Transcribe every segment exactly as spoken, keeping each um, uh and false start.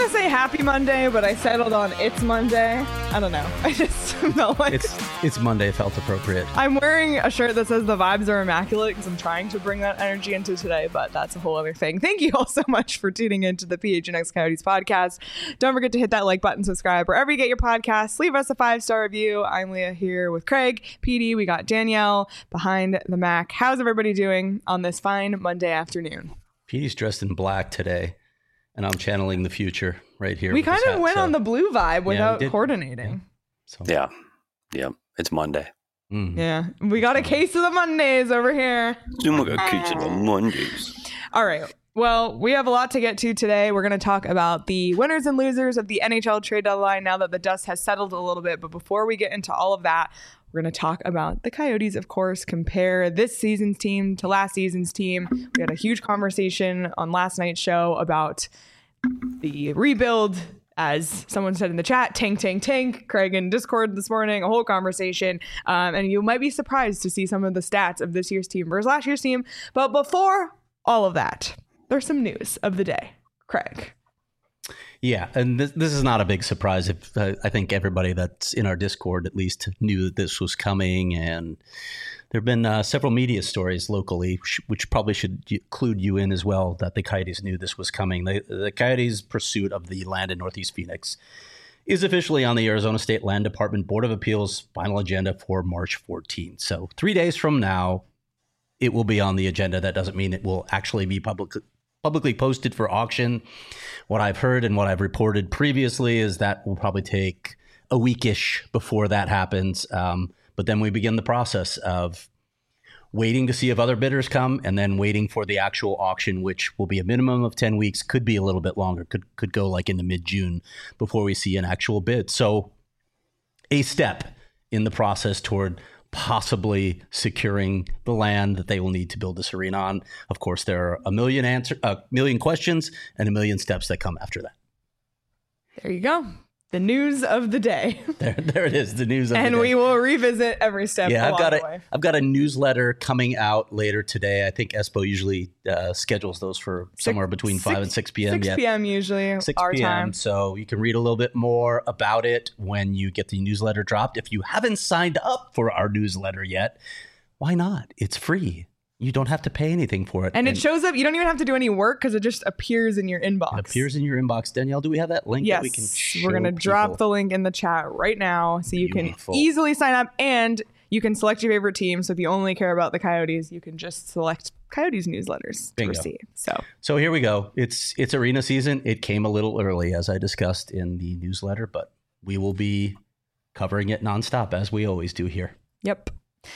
going to say happy Monday, but I settled on it's Monday. I don't know. I just felt like... It's, it's Monday. It felt appropriate. I'm wearing a shirt that says the vibes are immaculate because I'm trying to bring that energy into today, but that's a whole other thing. Thank you all so much for tuning into the P H N X Coyotes podcast. Don't forget to hit that like button, subscribe wherever you get your podcasts. Leave us a five-star review. I'm Leah here with Craig, P D. We got Danielle behind the Mac. How's everybody doing on this fine Monday afternoon? P D's dressed in black today. And I'm channeling the future right here. We kind of hat, went so. on the blue vibe without yeah, coordinating. Yeah. So. yeah. Yeah. It's Monday. Mm. Yeah. We got a case of the Mondays over here. We got a case of the Mondays. All right. Well, we have a lot to get to today. We're going to talk about the winners and losers of the N H L trade deadline now that the dust has settled a little bit. But before we get into all of that, we're going to talk about the Coyotes, of course, compare this season's team to last season's team. We had a huge conversation on last night's show about the rebuild, as someone said in the chat, tank, tank, tank. Craig in Discord this morning, a whole conversation. Um, and you might be surprised to see some of the stats of this year's team versus last year's team. But before all of that, there's some news of the day. Craig. Yeah, and this, this is not a big surprise. If uh, I think everybody that's in our Discord at least knew that this was coming, and there have been uh, several media stories locally, which, which probably should include you in as well, that the Coyotes knew this was coming. The, the Coyotes' pursuit of the land in Northeast Phoenix is officially on the Arizona State Land Department Board of Appeals final agenda for March fourteenth. So three days from now, it will be on the agenda. That doesn't mean it will actually be public. publicly posted for auction. What I've heard and what I've reported previously is that will probably take a weekish before that happens. Um, but then we begin the process of waiting to see if other bidders come and then waiting for the actual auction, which will be a minimum of ten weeks, could be a little bit longer, could could go like into mid-June before we see an actual bid. So a step in the process toward possibly securing the land that they will need to build this arena on. Of course, there are a million answer, a million questions and a million steps that come after that. There you go. The news of the day. There, there it is. The news of and the day. And we will revisit every step. Yeah, along I've got the a, way. I've got a newsletter coming out later today. I think Espo usually uh, schedules those for Six, somewhere between six, five and six p.m. six p.m. usually, six our p.m. time. So you can read a little bit more about it when you get the newsletter dropped. If you haven't signed up for our newsletter yet, why not? It's free. You don't have to pay anything for it. And, and it shows up. You don't even have to do any work because it just appears in your inbox. It appears in your inbox. Danielle, do we have that link yes, that we can show we're going to drop the link in the chat right now so you Beautiful. can easily sign up and you can select your favorite team. So if you only care about the Coyotes, you can just select Coyotes newsletters Bingo. to receive. So So here we go. It's it's arena season. It came a little early, as I discussed in the newsletter, but we will be covering it nonstop as we always do here. Yep.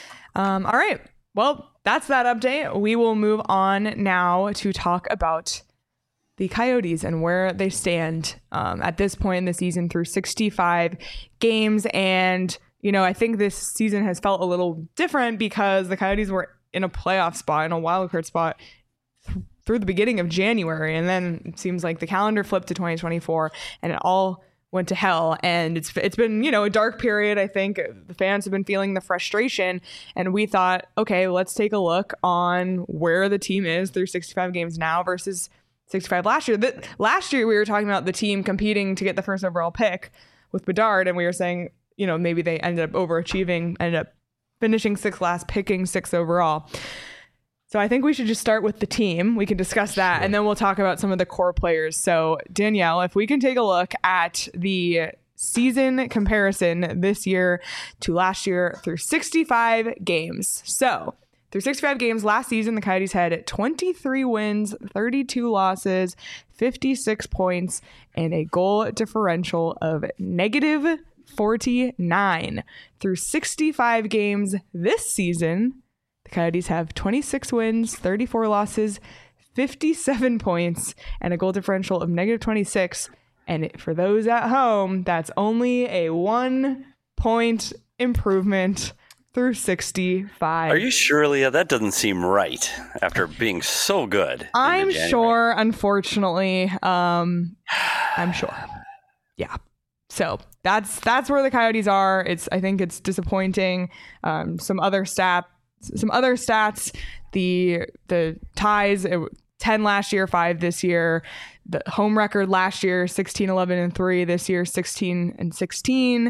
Um, all right. Well, that's that update. We will move on now to talk about the Coyotes and where they stand um, at this point in the season through sixty-five games. And, you know, I think this season has felt a little different because the Coyotes were in a playoff spot, in a wildcard spot th- through the beginning of January. And then it seems like the calendar flipped to twenty twenty-four and it all went to hell. And it's it's been, you know, a dark period. I think the fans have been feeling the frustration. And we thought, okay, let's take a look on where the team is through sixty-five games now versus sixty-five last year. That last year we were talking about the team competing to get the first overall pick with Bedard, and we were saying, you know, maybe they ended up overachieving, ended up finishing sixth last, picking sixth overall. So I think we should just start with the team. We can discuss that, sure. And then we'll talk about some of the core players. So Danielle, if we can take a look at the season comparison this year to last year through sixty-five games. So through sixty-five games last season, the Coyotes had twenty-three wins, thirty-two losses, fifty-six points, and a goal differential of negative forty-nine. Through sixty-five games this season, the Coyotes have twenty-six wins, thirty-four losses, fifty-seven points, and a goal differential of negative twenty-six. And for those at home, that's only a one-point improvement through sixty-five. Are you sure, Leah? That doesn't seem right after being so good. I'm sure, unfortunately. Um, I'm sure. Yeah. So that's that's where the Coyotes are. It's I think it's disappointing. Um, some other stat, some other stats. The the ties. It, ten last year, five this year. the home record last year, sixteen, eleven, and three. This year, sixteen and sixteen.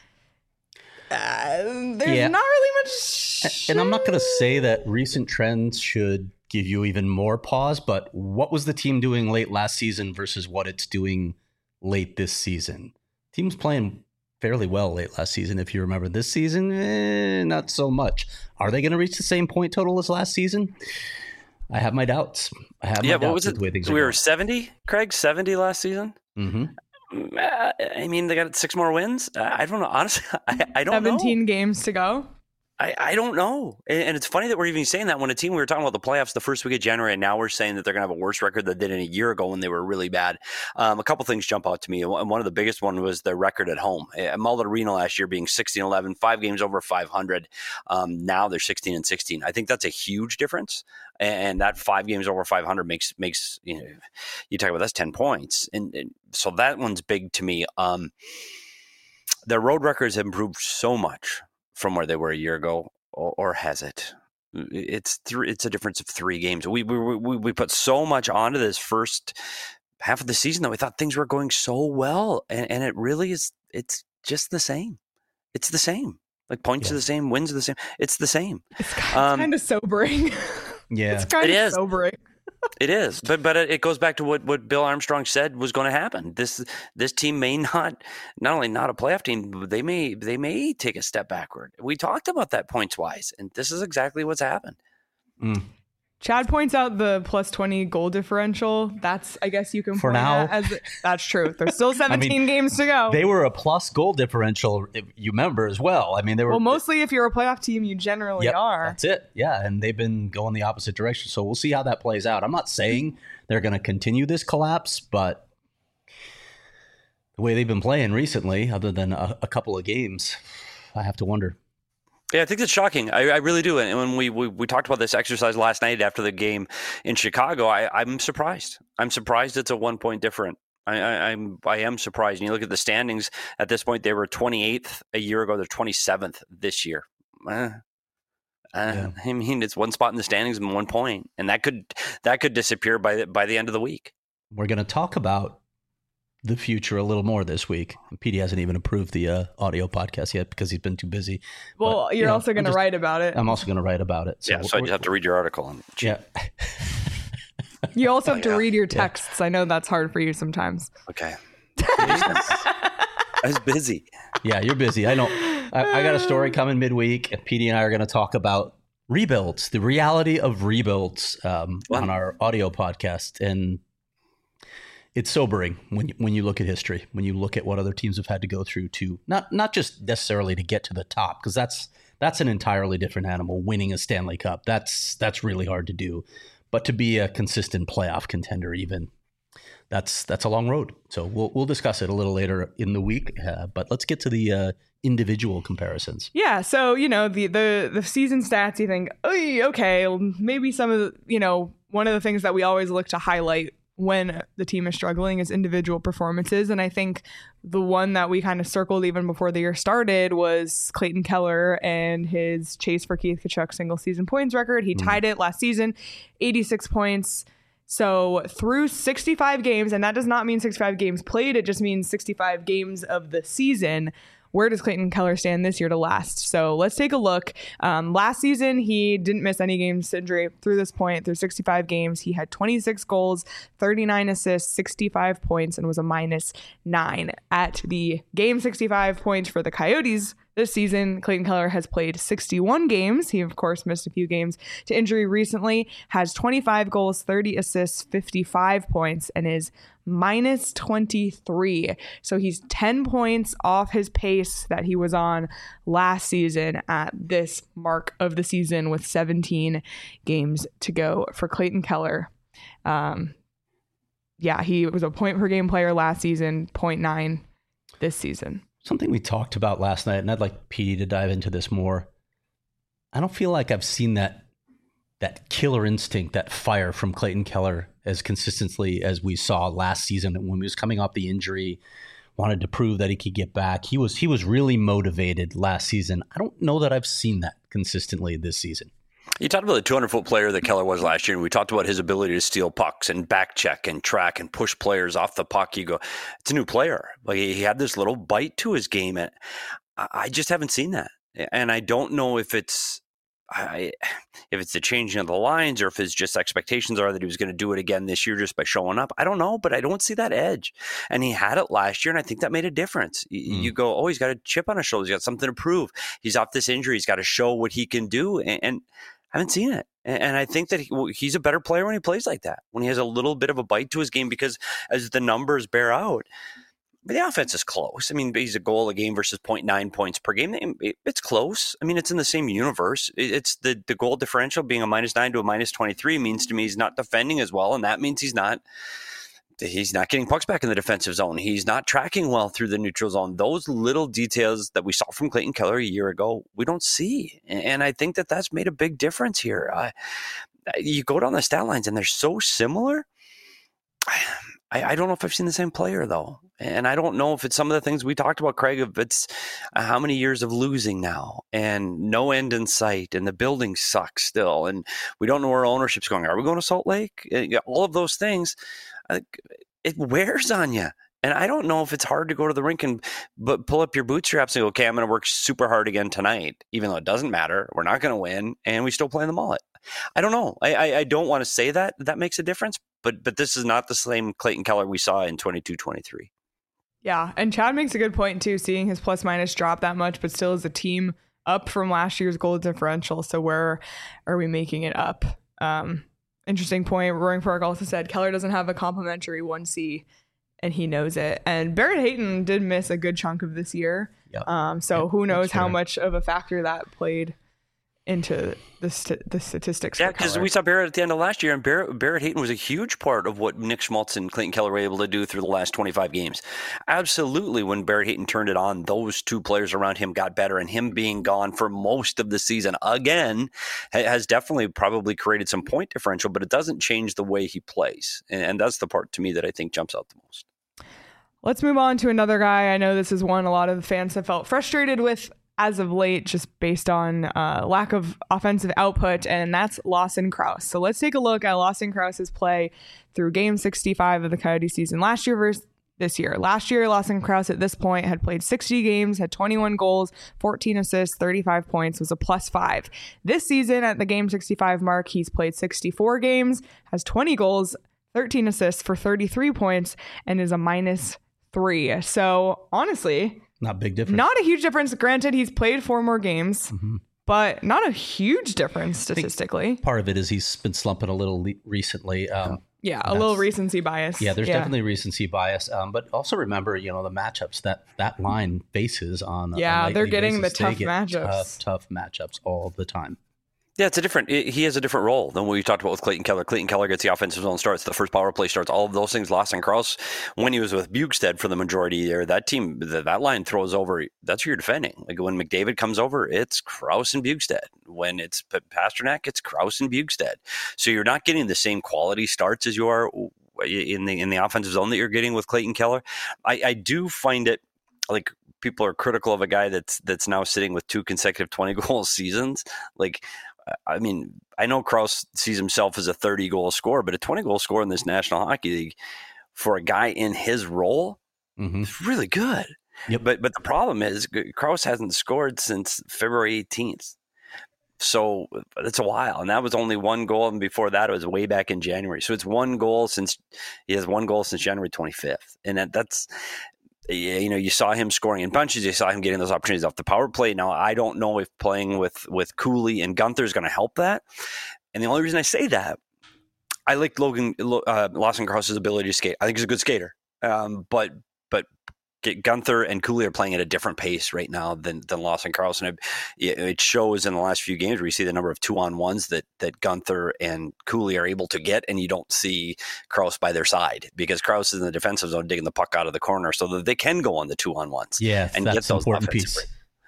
Uh, there's Yeah. not really much. And I'm not going to say that recent trends should give you even more pause, but what was the team doing late last season versus what it's doing late this season? Team's playing fairly well late last season, if you remember. This season, eh, not so much. Are they going to reach the same point total as last season? I have my doubts. I have yeah, my what doubts was with it? the way things So are we were going. seventy, Craig, seventy last season. Mm-hmm. Uh, I mean, they got six more wins. Uh, I don't know. Honestly, I, I don't seventeen know. games to go. I, I don't know. And, and it's funny that we're even saying that when a team, we were talking about the playoffs the first week of January, and now we're saying that they're going to have a worse record than they did a year ago when they were really bad. Um, a couple things jump out to me. And one of the biggest one was their record at home. At Mullet Arena last year being sixteen eleven, five games over five hundred. Um, now they're sixteen and sixteen. I think that's a huge difference. And that five games over five hundred makes, makes you know, you talk about that's ten points. And, and so that one's big to me. Um, their road records have improved so much from where they were a year ago. Or, or has it? It's three. It's a difference of three games. We we we we put so much onto this first half of the season that we thought things were going so well, and, and it really is. It's just the same. It's the same. Like points Yeah. are the same, wins are the same. It's the same. It's, it's Um, kind of sobering. Yeah. It's kind It of is. sobering. It is, but but it goes back to what, what Bill Armstrong said was going to happen. This this team may not not only not a playoff team, but they may they may take a step backward. We talked about that points wise, and this is exactly what's happened. Mm. Chad points out the plus twenty goal differential. That's, I guess you can For point now. at as that's true. There's still seventeen games to go. They were a plus goal differential, if you remember, as well. I mean, they were. well, mostly if you're a playoff team, you generally Yep, are. That's it. Yeah. And they've been going the opposite direction. So we'll see how that plays out. I'm not saying they're going to continue this collapse, but the way they've been playing recently, other than a, a couple of games, I have to wonder. Yeah, I think it's shocking. I, I really do. And when we, we we talked about this exercise last night after the game in Chicago, I, I'm surprised. I'm surprised it's a one point different. I, I, I'm I am surprised. And you look at the standings at this point; they were twenty-eighth a year ago. They're twenty-seventh this year. Uh, uh, Yeah. I mean, it's one spot in the standings and one point, and that could that could disappear by the, by the end of the week. We're going to talk about the future a little more this week. P D hasn't even approved the uh, audio podcast yet because he's been too busy. Well, But, you're you know, also going I'm to just- write about it. I'm also going to write about it. yeah, so I just have to read your article. And Yeah. You also have Oh, to yeah. read your texts. I know that's hard for you sometimes. okay, I was busy. Yeah, you're busy. I know. I, I got a story coming midweek. and P D and I are going to talk about rebuilds, the reality of rebuilds um, Wow. on our audio podcast. And it's sobering when when you look at history, when you look at what other teams have had to go through to not not just necessarily to get to the top, because that's that's an entirely different animal. Winning a Stanley Cup, that's that's really hard to do, but to be a consistent playoff contender, even that's that's a long road. So we'll we'll discuss it a little later in the week. Uh, but let's get to the uh, individual comparisons. Yeah, so you know the the the season stats. You think, "Oy, okay, maybe some of the, you know one of the things that we always look to highlight when the team is struggling is individual performances, and I think the one that we kind of circled even before the year started was Clayton Keller and his chase for Keith Tkachuk single season points record. He tied it last season, eighty-six points. So through sixty-five games, and that does not mean sixty-five games played, it just means sixty-five games of the season. Where does Clayton Keller stand this year to last? So let's take a look. Um, last season, he didn't miss any games injury through this point. Through sixty-five games, he had twenty-six goals, thirty-nine assists, sixty-five points, and was a minus nine. At the game sixty-five points for the Coyotes this season, Clayton Keller has played sixty-one games. He, of course, missed a few games to injury recently, has twenty-five goals, thirty assists, fifty-five points, and is minus twenty-three. So he's ten points off his pace that he was on last season at this mark of the season with seventeen games to go for Clayton Keller. Um, yeah, he was a point per game player last season, zero point nine this season. Something we talked about last night, and I'd like P D to dive into this more. I don't feel like I've seen that that killer instinct, that fire from Clayton Keller as consistently as we saw last season when he was coming off the injury, wanted to prove that he could get back. He was he was really motivated last season. I don't know that I've seen that consistently this season. You talked about the two hundred foot player that Keller was last year, and we talked about his ability to steal pucks and back check and track and push players off the puck. You go, it's a new player. Like he had this little bite to his game, and I just haven't seen that. And I don't know if it's I, if it's the changing of the lines or if his just expectations are that he was going to do it again this year just by showing up. I don't know, but I don't see that edge. And he had it last year, and I think that made a difference. Mm. You go, oh, he's got a chip on his shoulder. He's got something to prove. He's off this injury. He's got to show what he can do. And, and I haven't seen it. And I think that he, he's a better player when he plays like that, when he has a little bit of a bite to his game, because as the numbers bear out, the offense is close. I mean, he's a goal a game versus zero point nine points per game. It's close. I mean, it's in the same universe. It's the, the goal differential being a minus nine to a minus twenty-three means to me he's not defending as well. And that means he's not he's not getting pucks back in the defensive zone. He's not tracking well through the neutral zone. Those little details that we saw from Clayton Keller a year ago, we don't see. And I think that that's made a big difference here. Uh, you go down the stat lines and they're so similar. I, I don't know if I've seen the same player, though. And I don't know if it's some of the things we talked about, Craig, if it's uh, how many years of losing now and no end in sight and the building sucks still. And we don't know where ownership's going. Are we going to Salt Lake? All of those things, uh, it wears on you. And I don't know if it's hard to go to the rink and but pull up your bootstraps and go, okay, I'm going to work super hard again tonight, even though it doesn't matter. We're not going to win, and we still play in the mullet. I don't know. I, I, I don't want to say that that makes a difference, but but this is not the same Clayton Keller we saw in twenty-two twenty-three. Yeah, and Chad makes a good point, too, seeing his plus minus drop that much, but still as a team up from last year's goal differential. So where are we making it up? Um, interesting point. Roaring Fork also said Keller doesn't have a complimentary one C, and he knows it. And Barrett Hayton did miss a good chunk of this year. Yep. Um, so yep, who knows how much of a factor that played into the st- the statistics. Yeah, because we saw Barrett at the end of last year, and Barrett, Barrett Hayton was a huge part of what Nick Schmaltz and Clayton Keller were able to do through the last twenty-five games. Absolutely, when Barrett Hayton turned it on, those two players around him got better, and him being gone for most of the season again has definitely probably created some point differential, but it doesn't change the way he plays, and, and that's the part to me that I think jumps out the most. Let's move on to another guy. I know this is one a lot of the fans have felt frustrated with as of late, just based on uh, lack of offensive output, and that's Lawson Crouse. So let's take a look at Lawson Crouse's play through game sixty-five of the Coyote season last year versus this year. Last year, Lawson Crouse at this point had played sixty games, had twenty-one goals, fourteen assists, thirty-five points, was a plus five. This season at the game sixty-five mark, he's played sixty-four games, has twenty goals, thirteen assists for thirty-three points, and is a minus three. So honestly, not a big difference. Not a huge difference. Granted, he's played four more games, mm-hmm. but not a huge difference statistically. Part of it is he's been slumping a little le- recently. Um, yeah, a little recency bias. Yeah, there's yeah. definitely recency bias. Um, but also remember, you know, the matchups that that line faces on. Yeah, a they're getting basis. the tough they matchups. Tough, tough matchups all the time. Yeah, it's a different. He has a different role than what we talked about with Clayton Keller. Clayton Keller gets the offensive zone starts, the first power play starts, all of those things. Lawson Crouse, when he was with Bukestad for the majority there, that team, the, that line throws over. That's who you're defending. Like when McDavid comes over, it's Crouse and Bukestad. When it's Pasternak, it's Crouse and Bukestad. So you're not getting the same quality starts as you are in the in the offensive zone that you're getting with Clayton Keller. I, I do find it like people are critical of a guy that's that's now sitting with two consecutive twenty goal seasons. Like. I mean, I know Crouse sees himself as a thirty goal scorer, but a twenty goal scorer in this National Hockey League for a guy in his role mm-hmm. is really good. Yep. But but the problem is Crouse hasn't scored since February eighteenth. So it's a while. And that was only one goal. And before that, it was way back in January. So it's one goal since he has one goal since January twenty-fifth. And that, that's, you know, you saw him scoring in bunches. You saw him getting those opportunities off the power play. Now, I don't know if playing with, with Cooley and Gunther is going to help that. And the only reason I say that, I like Logan uh, Lawson Crouse's ability to skate. I think he's a good skater. Um, but but Gunther and Cooley are playing at a different pace right now than than Lawson Crouse. And it, it shows in the last few games where you see the number of two-on-ones that that Gunther and Cooley are able to get, and you don't see Crouse by their side because Crouse is in the defensive zone digging the puck out of the corner so that they can go on the two-on-ones. Yeah, and that's get those important piece. breaks.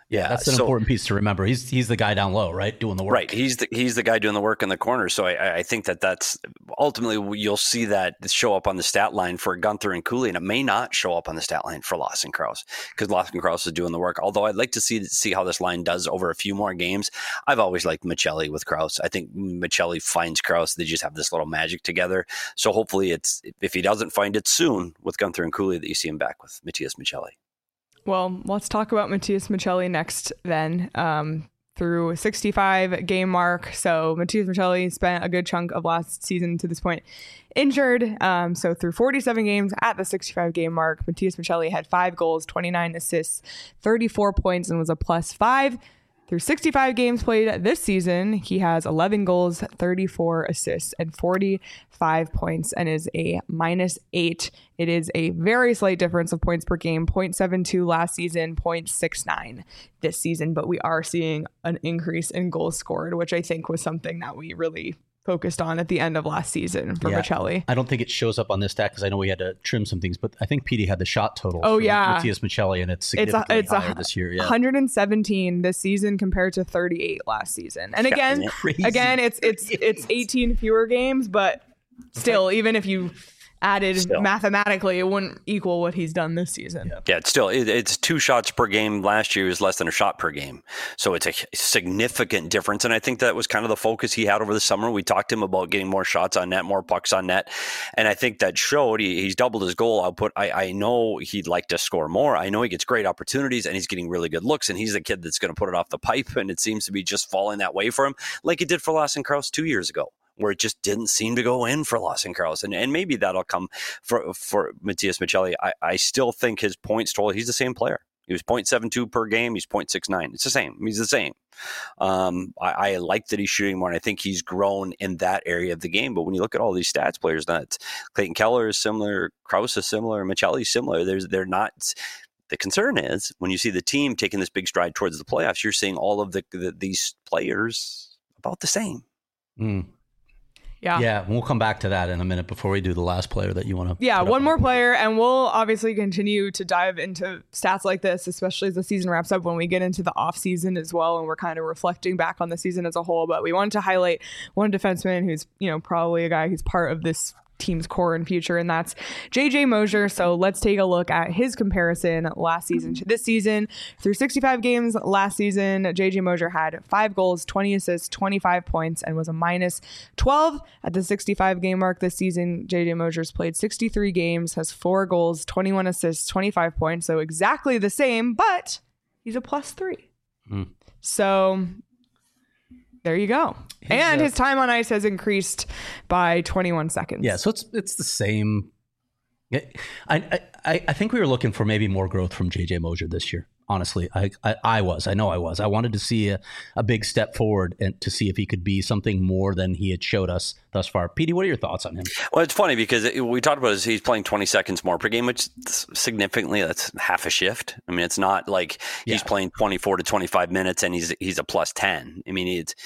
Yeah, that's an so, important piece to remember. He's he's the guy down low, right, doing the work. Right, he's the he's the guy doing the work in the corner. So I, I think that that's ultimately you'll see that show up on the stat line for Guenther and Cooley, and it may not show up on the stat line for Lawson Crouse because Lawson Crouse is doing the work. Although I'd like to see see how this line does over a few more games. I've always liked Michelli with Crouse. I think Michelli finds Crouse. They just have this little magic together. So hopefully, it's if he doesn't find it soon with Guenther and Cooley, that you see him back with Matias Michelli. Well, let's talk about Matias Michelli next then. Um, through sixty-five game mark. So Matias Michelli spent a good chunk of last season to this point injured. Um, so through forty-seven games at the sixty-five game mark, Matias Michelli had five goals, twenty-nine assists, thirty-four points, and was a plus five. Through sixty-five games played this season, he has eleven goals, thirty-four assists, and forty-five points, and is a minus eight. It is a very slight difference of points per game, zero point seven two last season, zero point six nine this season, but we are seeing an increase in goals scored, which I think was something that we really focused on at the end of last season for yeah, Michelli. I don't think it shows up on this stat because I know we had to trim some things, but I think P D had the shot total. Oh, for yeah. Matias Michelli, and it's significantly it's a, it's higher a, this year. Yeah. one hundred seventeen this season compared to thirty-eight last season. And again, yeah, crazy, again, it's it's it's eighteen fewer games, but still, even if you added still. mathematically, it wouldn't equal what he's done this season. Yeah, yeah it's still it, it's two shots per game. Last year was less than a shot per game, so it's a significant difference. And I think that was kind of the focus he had over the summer. We talked to him about getting more shots on net, more pucks on net, and I think that showed. He, he's doubled his goal output. I, I know he'd like to score more. I know he gets great opportunities, and he's getting really good looks. And he's the kid that's going to put it off the pipe, and it seems to be just falling that way for him, like it did for Lawson Crouse two years ago, where it just didn't seem to go in for Lawson Crouse. And, and maybe that'll come for for Matias Michelli. I, I still think his points total, he's the same player. He was zero point seven two per game. He's zero point six nine. It's the same. He's the same. Um, I, I like that he's shooting more, and I think he's grown in that area of the game. But when you look at all these stats players, that Clayton Keller is similar, Crouse is similar, Michelli is similar. There's, they're not... The concern is when you see the team taking this big stride towards the playoffs, you're seeing all of the, the these players about the same. Mm. Yeah. Yeah. We'll come back to that in a minute before we do the last player that you want to. Yeah. One more player. And we'll obviously continue to dive into stats like this, especially as the season wraps up when we get into the off season as well. And we're kind of reflecting back on the season as a whole. But we wanted to highlight one defenseman who's, you know, probably a guy who's part of this team's core and future, and that's J J Mosier. So let's take a look at his comparison last season to this season. Through sixty-five games last season, J J Mosier had five goals, twenty assists, twenty-five points, and was a minus twelve at the sixty-five game mark this season. J J Mosier's played sixty-three games, has four goals, twenty-one assists, twenty-five points, so exactly the same, but he's a plus three. Mm. So there you go. He's, and uh, his time on ice has increased by twenty-one seconds. Yeah, so it's it's the same. I I I think we were looking for maybe more growth from J J Mosier this year. Honestly, I, I I was. I know I was. I wanted to see a, a big step forward and to see if he could be something more than he had showed us thus far. Petey, what are your thoughts on him? Well, it's funny because it, we talked about is he's playing twenty seconds more per game, which significantly that's half a shift. I mean, it's not like he's yeah. playing twenty-four to twenty-five minutes and he's he's a plus ten. I mean, it's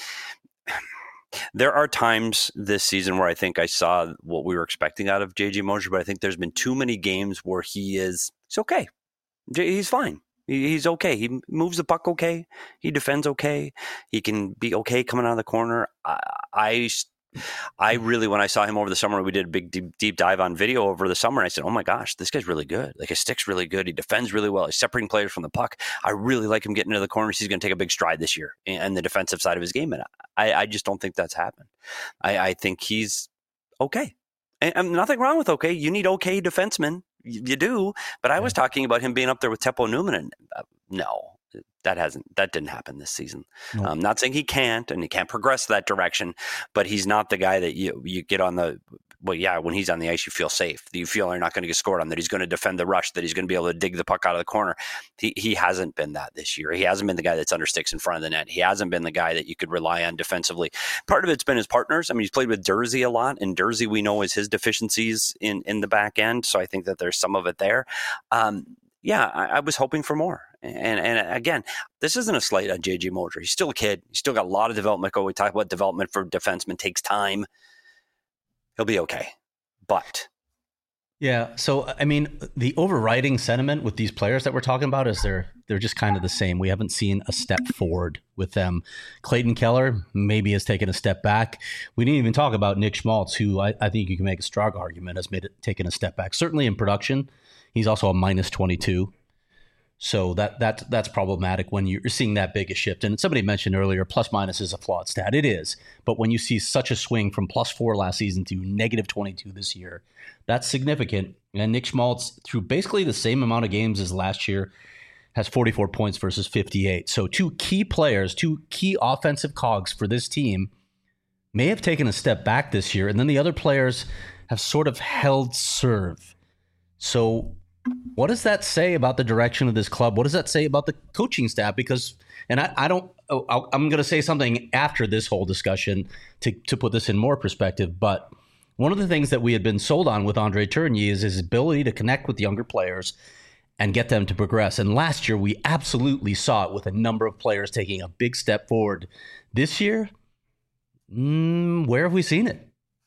there are times this season where I think I saw what we were expecting out of J J Mosier, but I think there's been too many games where he is it's okay. He's fine. He's okay. He moves the puck okay. He defends okay. He can be okay coming out of the corner. I, I, I really, when I saw him over the summer, we did a big deep, deep dive on video over the summer. And I said, oh my gosh, this guy's really good. Like his stick's really good. He defends really well. He's separating players from the puck. I really like him getting into the corners. He's going to take a big stride this year in the defensive side of his game. And I, I just don't think that's happened. I, I think he's okay. And, and nothing wrong with okay. You need okay defensemen. You do, but I was talking about him being up there with Teppo Numminen, and uh, no, that hasn't, that didn't happen this season. Nope. I'm not saying he can't, and he can't progress that direction, but he's not the guy that you you get on the. Well, yeah, when he's on the ice, you feel safe. You feel you're not going to get scored on, that he's going to defend the rush, that he's going to be able to dig the puck out of the corner. He he hasn't been that this year. He hasn't been the guy that's under sticks in front of the net. He hasn't been the guy that you could rely on defensively. Part of it's been his partners. I mean, he's played with Dursey a lot, and Dursey we know is his deficiencies in, in the back end. So I think that there's some of it there. Um, yeah, I, I was hoping for more. And and again, this isn't a slight on J J Mosier. He's still a kid. He's still got a lot of development. Go. We talk about development for defensemen takes time. He'll be okay. But Yeah. So, I mean, the overriding sentiment with these players that we're talking about is they're they're just kind of the same. We haven't seen a step forward with them. Clayton Keller maybe has taken a step back. We didn't even talk about Nick Schmaltz, who I, I think you can make a strong argument has made it taken a step back. Certainly in production, he's also a minus twenty-two. So that that that's problematic when you're seeing that big a shift. And somebody mentioned earlier, plus minus is a flawed stat. It is. But when you see such a swing from plus four last season to negative twenty-two this year, that's significant. And Nick Schmaltz, through basically the same amount of games as last year, has forty-four points versus fifty-eight. So two key players, two key offensive cogs for this team may have taken a step back this year. And then the other players have sort of held serve. So what does that say about the direction of this club? What does that say about the coaching staff? Because, and I, I don't, I'll, I'm going to say something after this whole discussion to, to put this in more perspective. But one of the things that we had been sold on with Andre Tourigny is his ability to connect with younger players and get them to progress. And last year, we absolutely saw it with a number of players taking a big step forward. This year, mm, where have we seen it?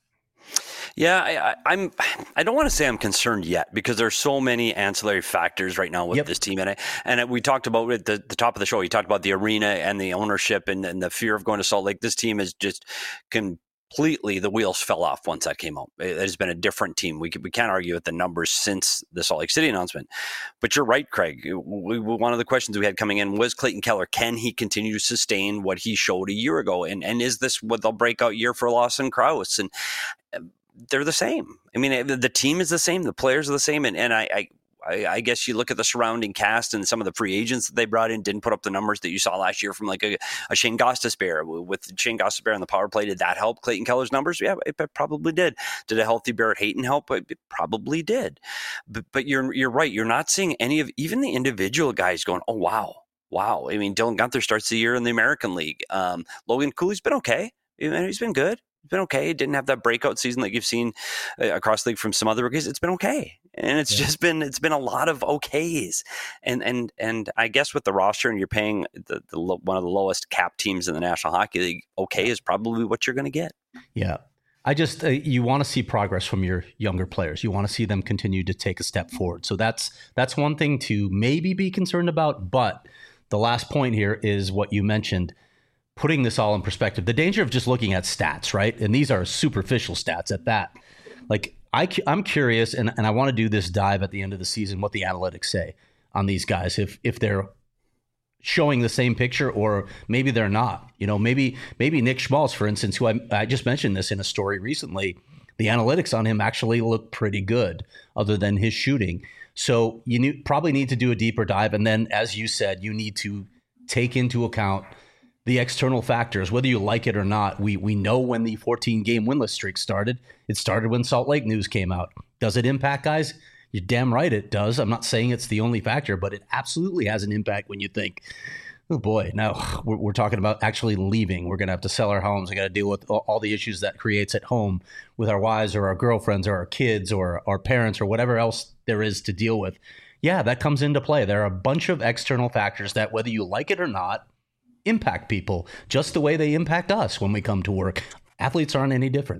Yeah, I, I, I'm. I don't want to say I'm concerned yet because there's so many ancillary factors right now with Yep. this team, and I, and we talked about at the, the top of the show. You talked about the arena and the ownership and, and the fear of going to Salt Lake. This team is just completely the wheels fell off once that came out. It has been a different team. We can, we can't argue with the numbers since the Salt Lake City announcement. But you're right, Craig. We, we, one of the questions we had coming in was Clayton Keller. Can he continue to sustain what he showed a year ago? And and is this what the breakout year for Lawson Crouse? And they're the same. I mean, the team is the same. The players are the same. And, and I, I, I guess you look at the surrounding cast and some of the free agents that they brought in didn't put up the numbers that you saw last year from like a, a Shane Gostisbehere. With Shane Gostisbehere on the power play, did that help Clayton Keller's numbers? Yeah, it probably did. Did a healthy Barrett Hayton help? It probably did. But, but you're you're right. You're not seeing any of even the individual guys going, oh, wow. Wow. I mean, Dylan Guenther starts the year in the American League. Um, Logan Cooley's been okay. He's been good. It's been okay. It didn't have that breakout season that you've seen uh, across the league from some other rookies. It's been okay, and it's yeah. just been it's been a lot of okays. And and and I guess with the roster, and you're paying the, the one of the lowest cap teams in the National Hockey League, okay is probably what you're going to get. Yeah, I just uh, you want to see progress from your younger players. You want to see them continue to take a step forward. So that's that's one thing to maybe be concerned about. But the last point here is what you mentioned. Putting this all in perspective, the danger of just looking at stats, right? And these are superficial stats at that. Like, I, I'm curious, and, and I want to do this dive at the end of the season, what the analytics say on these guys, if if they're showing the same picture or maybe they're not. You know, maybe maybe Nick Schmaltz, for instance, who I, I just mentioned this in a story recently, the analytics on him actually look pretty good other than his shooting. So you need, probably need to do a deeper dive. And then, as you said, you need to take into account the external factors, whether you like it or not. We we know when the fourteen-game winless streak started. It started when Salt Lake news came out. Does it impact guys? You're damn right it does. I'm not saying it's the only factor, but it absolutely has an impact when you think, oh boy, now we're, we're talking about actually leaving. We're going to have to sell our homes. We got to deal with all, all the issues that creates at home with our wives or our girlfriends or our kids or our parents or whatever else there is to deal with. Yeah, that comes into play. There are a bunch of external factors that, whether you like it or not, impact people just the way they impact us when we come to work. Athletes aren't any different.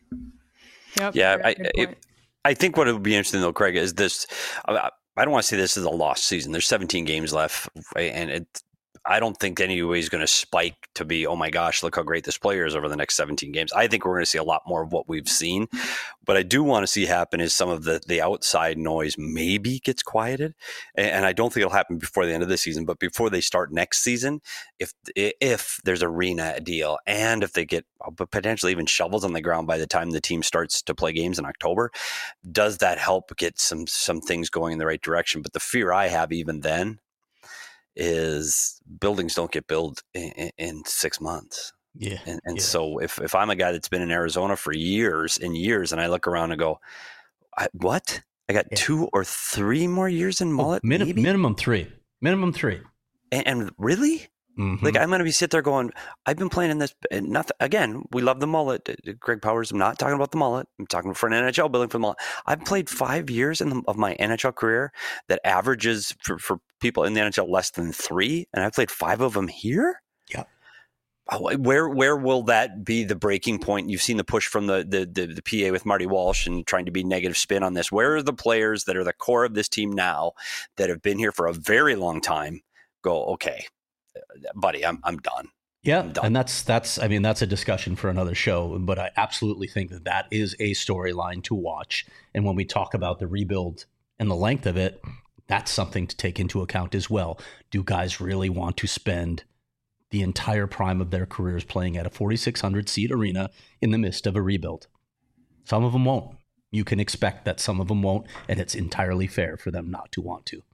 Yep, yeah, I, it, I think what would be interesting though, Craig, is this. I, I don't want to say this is a lost season. There's seventeen games left, right? And it, I don't think anybody is going to spike to be, oh my gosh, look how great this player is over the next seventeen games. I think we're going to see a lot more of what we've seen. But I do want to see happen is some of the, the outside noise maybe gets quieted. And I don't think it'll happen before the end of the season, but before they start next season, if if there's arena deal and if they get potentially even shovels on the ground by the time the team starts to play games in October, does that help get some some things going in the right direction? But the fear I have even then is buildings don't get built in, in, in six months. Yeah. And, and yeah. so if, if I'm a guy that's been in Arizona for years and years and I look around and go, I, what? I got yeah. two or three more years in Mullet? Oh, min- minimum three. Minimum three. And, and really? Mm-hmm. Like I'm going to be sit there going, I've been playing in this. And nothing. Again, we love the mullet. Greg Powers, I'm not talking about the mullet. I'm talking for an N H L building for the mullet. I've played five years in the, of my N H L career that averages for, for people in the N H L less than three. And I've played five of them here. Yeah. Where where will that be the breaking point? You've seen the push from the, the the the P A with Marty Walsh and trying to be negative spin on this. Where are the players that are the core of this team now that have been here for a very long time go, okay, buddy, I'm I'm done. Yeah, I'm done. and that's that's I mean that's a discussion for another show, but I absolutely think that that is a storyline to watch. And when we talk about the rebuild and the length of it, that's something to take into account as well. Do guys really want to spend the entire prime of their careers playing at a forty-six hundred seat arena in the midst of a rebuild? Some of them won't. You can expect that some of them won't, and it's entirely fair for them not to want to.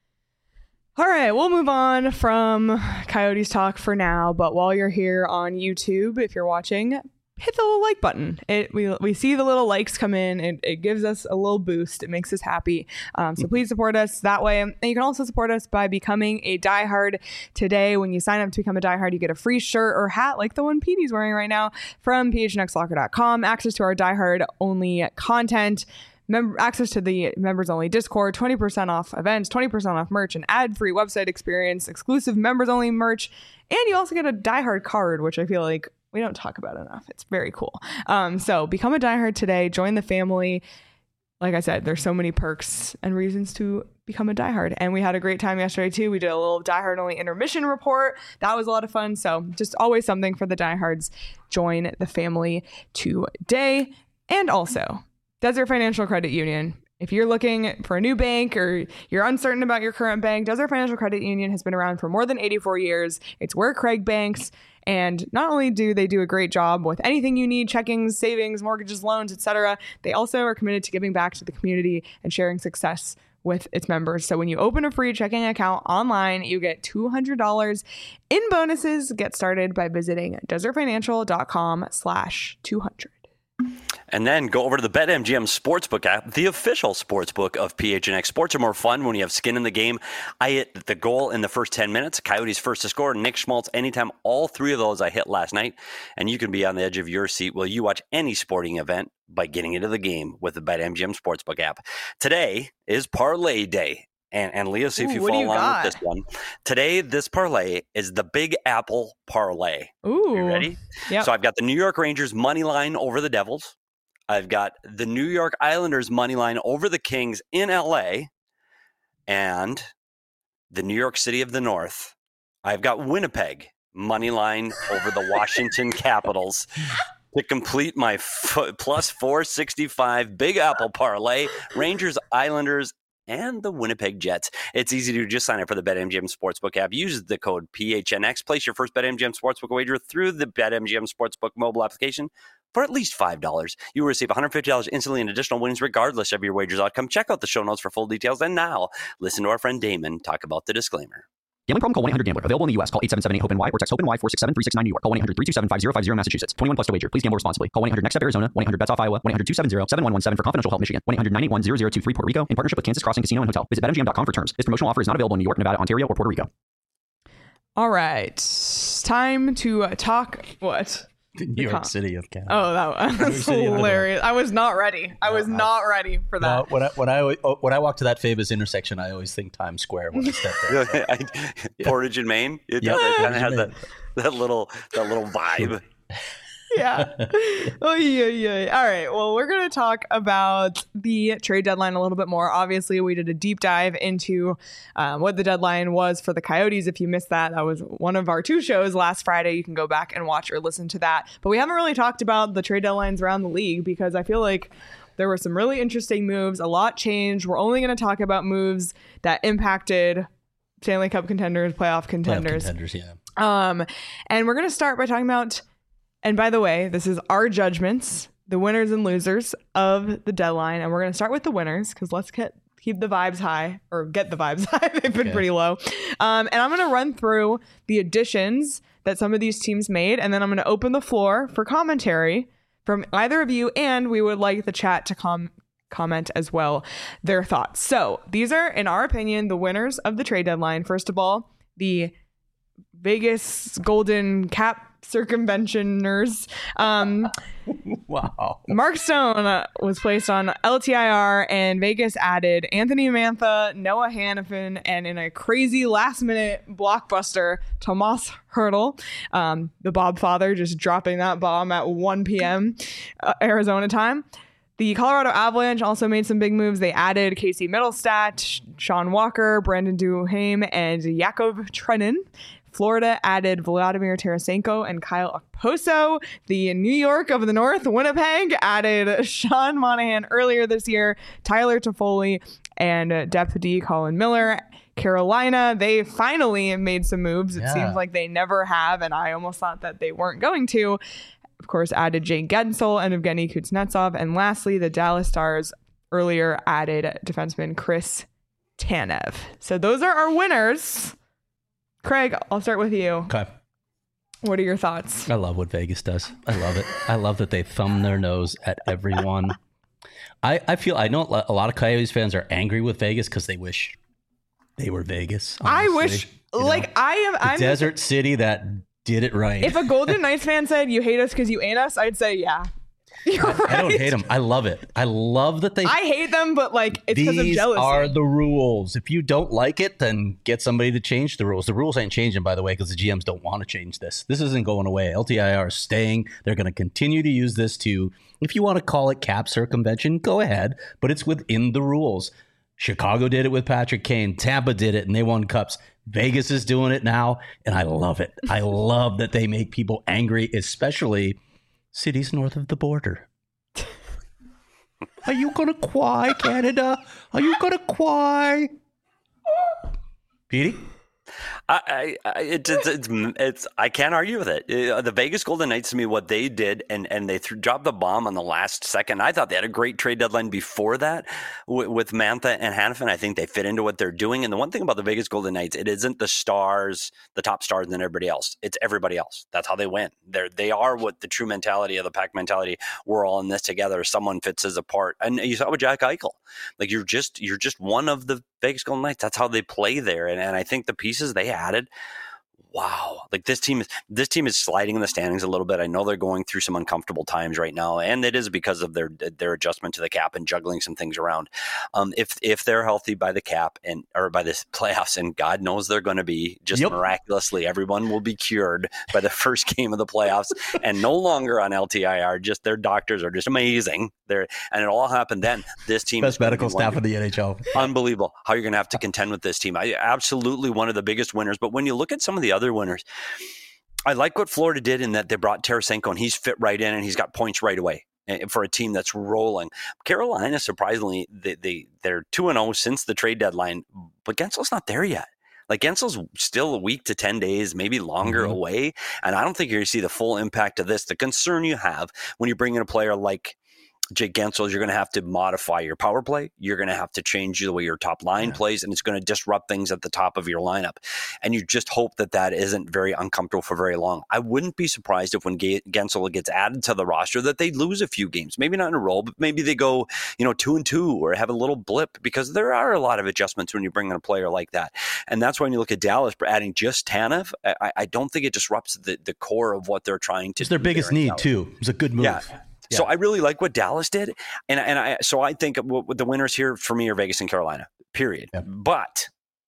All right, we'll move on from Coyotes talk for now, but while you're here on YouTube, if you're watching, hit the little like button. It we we see the little likes come in. It, it gives us a little boost. It makes us happy. Um, so please support us that way. And you can also support us by becoming a diehard today. When you sign up to become a diehard, you get a free shirt or hat like the one Petey's wearing right now from P H N X locker dot com. Access to our diehard only content. Mem- access to the members only Discord, twenty percent off events, twenty percent off merch, an ad free website experience, exclusive members only merch, and you also get a diehard card, which I feel like we don't talk about enough. It's very cool. Um, so become a diehard today. Join the family. Like I said, there's so many perks and reasons to become a diehard. And we had a great time yesterday too. We did a little diehard only intermission report. That was a lot of fun. So just always something for the diehards. Join the family today. And also, Desert Financial Credit Union. If you're looking for a new bank or you're uncertain about your current bank, Desert Financial Credit Union has been around for more than eighty-four years. It's where Craig banks. And not only do they do a great job with anything you need, checkings, savings, mortgages, loans, et cetera, they also are committed to giving back to the community and sharing success with its members. So when you open a free checking account online, you get two hundred dollars in bonuses. Get started by visiting desert financial dot com slash two hundred. And then go over to the BetMGM Sportsbook app, the official sportsbook of P H N X. Sports are more fun when you have skin in the game. I hit the goal in the first ten minutes. Coyotes first to score. Nick Schmaltz anytime. All three of those I hit last night. And you can be on the edge of your seat while you watch any sporting event by getting into the game with the BetMGM Sportsbook app. Today is Parlay Day. And, and Leah, see if Ooh, you what do follow you along got? with this one. Today, this parlay is the Big Apple Parlay. Ooh. You ready? Yep. So I've got the New York Rangers money line over the Devils. I've got the New York Islanders money line over the Kings in L A, and the New York City of the North. I've got Winnipeg money line over the Washington Capitals to complete my f- plus four sixty-five Big Apple parlay. Rangers, Islanders, and the Winnipeg Jets. It's easy to just sign up for the BetMGM Sportsbook app. Use the code P H N X. Place your first BetMGM Sportsbook wager through the BetMGM Sportsbook mobile application for at least five dollars. You will receive one hundred fifty dollars instantly in additional winnings regardless of your wager's outcome. Check out the show notes for full details. And now, listen to our friend Damon talk about the disclaimer. Gambling problem? Call one eight hundred gambler. Available in the U S. Call eight seven seven eight hope N Y or text HOPE-NY four six seven three six nine New York. Call one eight hundred three two seven five zero five zero Massachusetts. twenty-one plus to wager. Please gamble responsibly. Call one eight hundred next step Arizona. one eight hundred bets off Iowa. one eight hundred two seven zero seven one one seven for confidential help Michigan. one eight hundred nine eight one zero zero two three Puerto Rico in partnership with Kansas Crossing Casino and Hotel. Visit bet M G M dot com for terms. This promotional offer is not available in New York, Nevada, Ontario, or Puerto Rico. All right. Time to uh, talk. What? New York City of Canada. Oh, that was hilarious. I was not ready. I was No, I- not ready for that. Uh, when I when I when I walk to that famous intersection, I always think Times Square when I step there. I, Portage in Maine. It, Yep. does. It kind of Portage has in that, Maine. that little that little vibe. Yeah. Oh, yeah, yeah. All right. Well, we're going to talk about the trade deadline a little bit more. Obviously, we did a deep dive into um, what the deadline was for the Coyotes. If you missed that, that was one of our two shows last Friday. You can go back and watch or listen to that. But we haven't really talked about the trade deadlines around the league because I feel like there were some really interesting moves. A lot changed. We're only going to talk about moves that impacted Stanley Cup contenders, playoff contenders. Playoff contenders, yeah. Um, and we're going to start by talking about, and by the way, this is our judgments, the winners and losers of the deadline. And we're going to start with the winners because let's get keep the vibes high or get the vibes high. They've been Okay. pretty low. Um, and I'm going to run through the additions that some of these teams made. And then I'm going to open the floor for commentary from either of you. And we would like the chat to com- comment as well their thoughts. So these are, in our opinion, the winners of the trade deadline. First of all, the Vegas golden cap circumventioners. Um, wow. Mark Stone uh, was placed on L T I R, and Vegas added Anthony Mantha, Noah Hannafin, and in a crazy last-minute blockbuster, Tomas Hertl, um, the Bob father, just dropping that bomb at one p.m. Uh, Arizona time. The Colorado Avalanche also made some big moves. They added Casey Mittelstadt, Sean Walker, Brandon Duhaime, and Yakov Trenin. Florida added Vladimir Tarasenko and Kyle Okposo. The New York of the North, Winnipeg, added Sean Monahan earlier this year, Tyler Toffoli, and Depth D Colin Miller. Carolina, they finally made some moves. It Yeah. seems like they never have, and I almost thought that they weren't going to. Of course, added Jake Gensel and Evgeny Kuznetsov. And lastly, the Dallas Stars earlier added defenseman Chris Tanev. So those are our winners. Craig, I'll start with you. Okay. What are your thoughts? I love what Vegas does. I love it. I love that they thumb their nose at everyone. I, I feel, I know a lot of Coyotes fans are angry with Vegas because they wish they were Vegas. I honestly. wish, You know, like, I am, the I'm desert city that did it right. If a Golden Knights fan said you hate us because you ain't us, I'd say yeah. You're I, right. I don't hate them. I love it. I love that they. I hate them, but like it's because of These jealousy. are the rules. If you don't like it, then get somebody to change the rules. The rules ain't changing, by the way, because the G Ms don't want to change this. This isn't going away. L T I R is staying. They're going to continue to use this to, if you want to call it cap circumvention, go ahead, but it's within the rules. Chicago did it with Patrick Kane. Tampa did it, and they won cups. Vegas is doing it now, and I love it. I love that they make people angry, especially cities north of the border. Are you gonna cry, Canada? Are you gonna cry? Petey? I, I, it's, it's, it's, it's, I can't argue with it. Uh, the Vegas Golden Knights, to me, what they did, and, and they threw, dropped the bomb on the last second. I thought they had a great trade deadline before that with, with Mantha and Hannafin. I think they fit into what they're doing. And the one thing about the Vegas Golden Knights, it isn't the stars, the top stars, and then everybody else. It's everybody else. That's how they win. They're, they are what the true mentality of the pack mentality. We're all in this together. Someone fits us apart. And you saw with Jack Eichel. Like you're just, you're just one of the Vegas Golden Knights. That's how they play there. And, and I think the pieces they added, wow, like this team is this team is sliding in the standings a little bit. I know they're going through some uncomfortable times right now, and it is because of their their adjustment to the cap and juggling some things around. Um, if if they're healthy by the cap and or by the playoffs, and God knows they're going to be, just yep. miraculously, everyone will be cured by the first game of the playoffs, and no longer on L T I R. Just their doctors are just amazing. They're and it all happened then. This team best is medical staff in the N H L. Unbelievable how you're going to have to contend with this team. I absolutely one of the biggest winners. But when you look at some of the other winners, I like what Florida did in that they brought Tarasenko and he's fit right in and he's got points right away for a team that's rolling. Carolina, surprisingly, they, they, they're two and oh since the trade deadline, but Gensel's not there yet. Like Gensel's still a week to ten days, maybe longer mm-hmm. away. And I don't think you're going to see the full impact of this. The concern you have when you bring in a player like Jake Gensel is you're going to have to modify your power play. You're going to have to change the way your top line yeah. plays, and it's going to disrupt things at the top of your lineup. And you just hope that that isn't very uncomfortable for very long. I wouldn't be surprised if when Gensel gets added to the roster that they lose a few games, maybe not in a row, but maybe they go, you know, two and two or have a little blip because there are a lot of adjustments when you bring in a player like that. And that's why when you look at Dallas adding just Tanev, I, I don't think it disrupts the, the core of what they're trying to do. It's their biggest need too. It was a good move. Yeah. Yeah. So I really like what Dallas did, and and I so I think what the winners here for me are Vegas and Carolina. Period. Yeah. But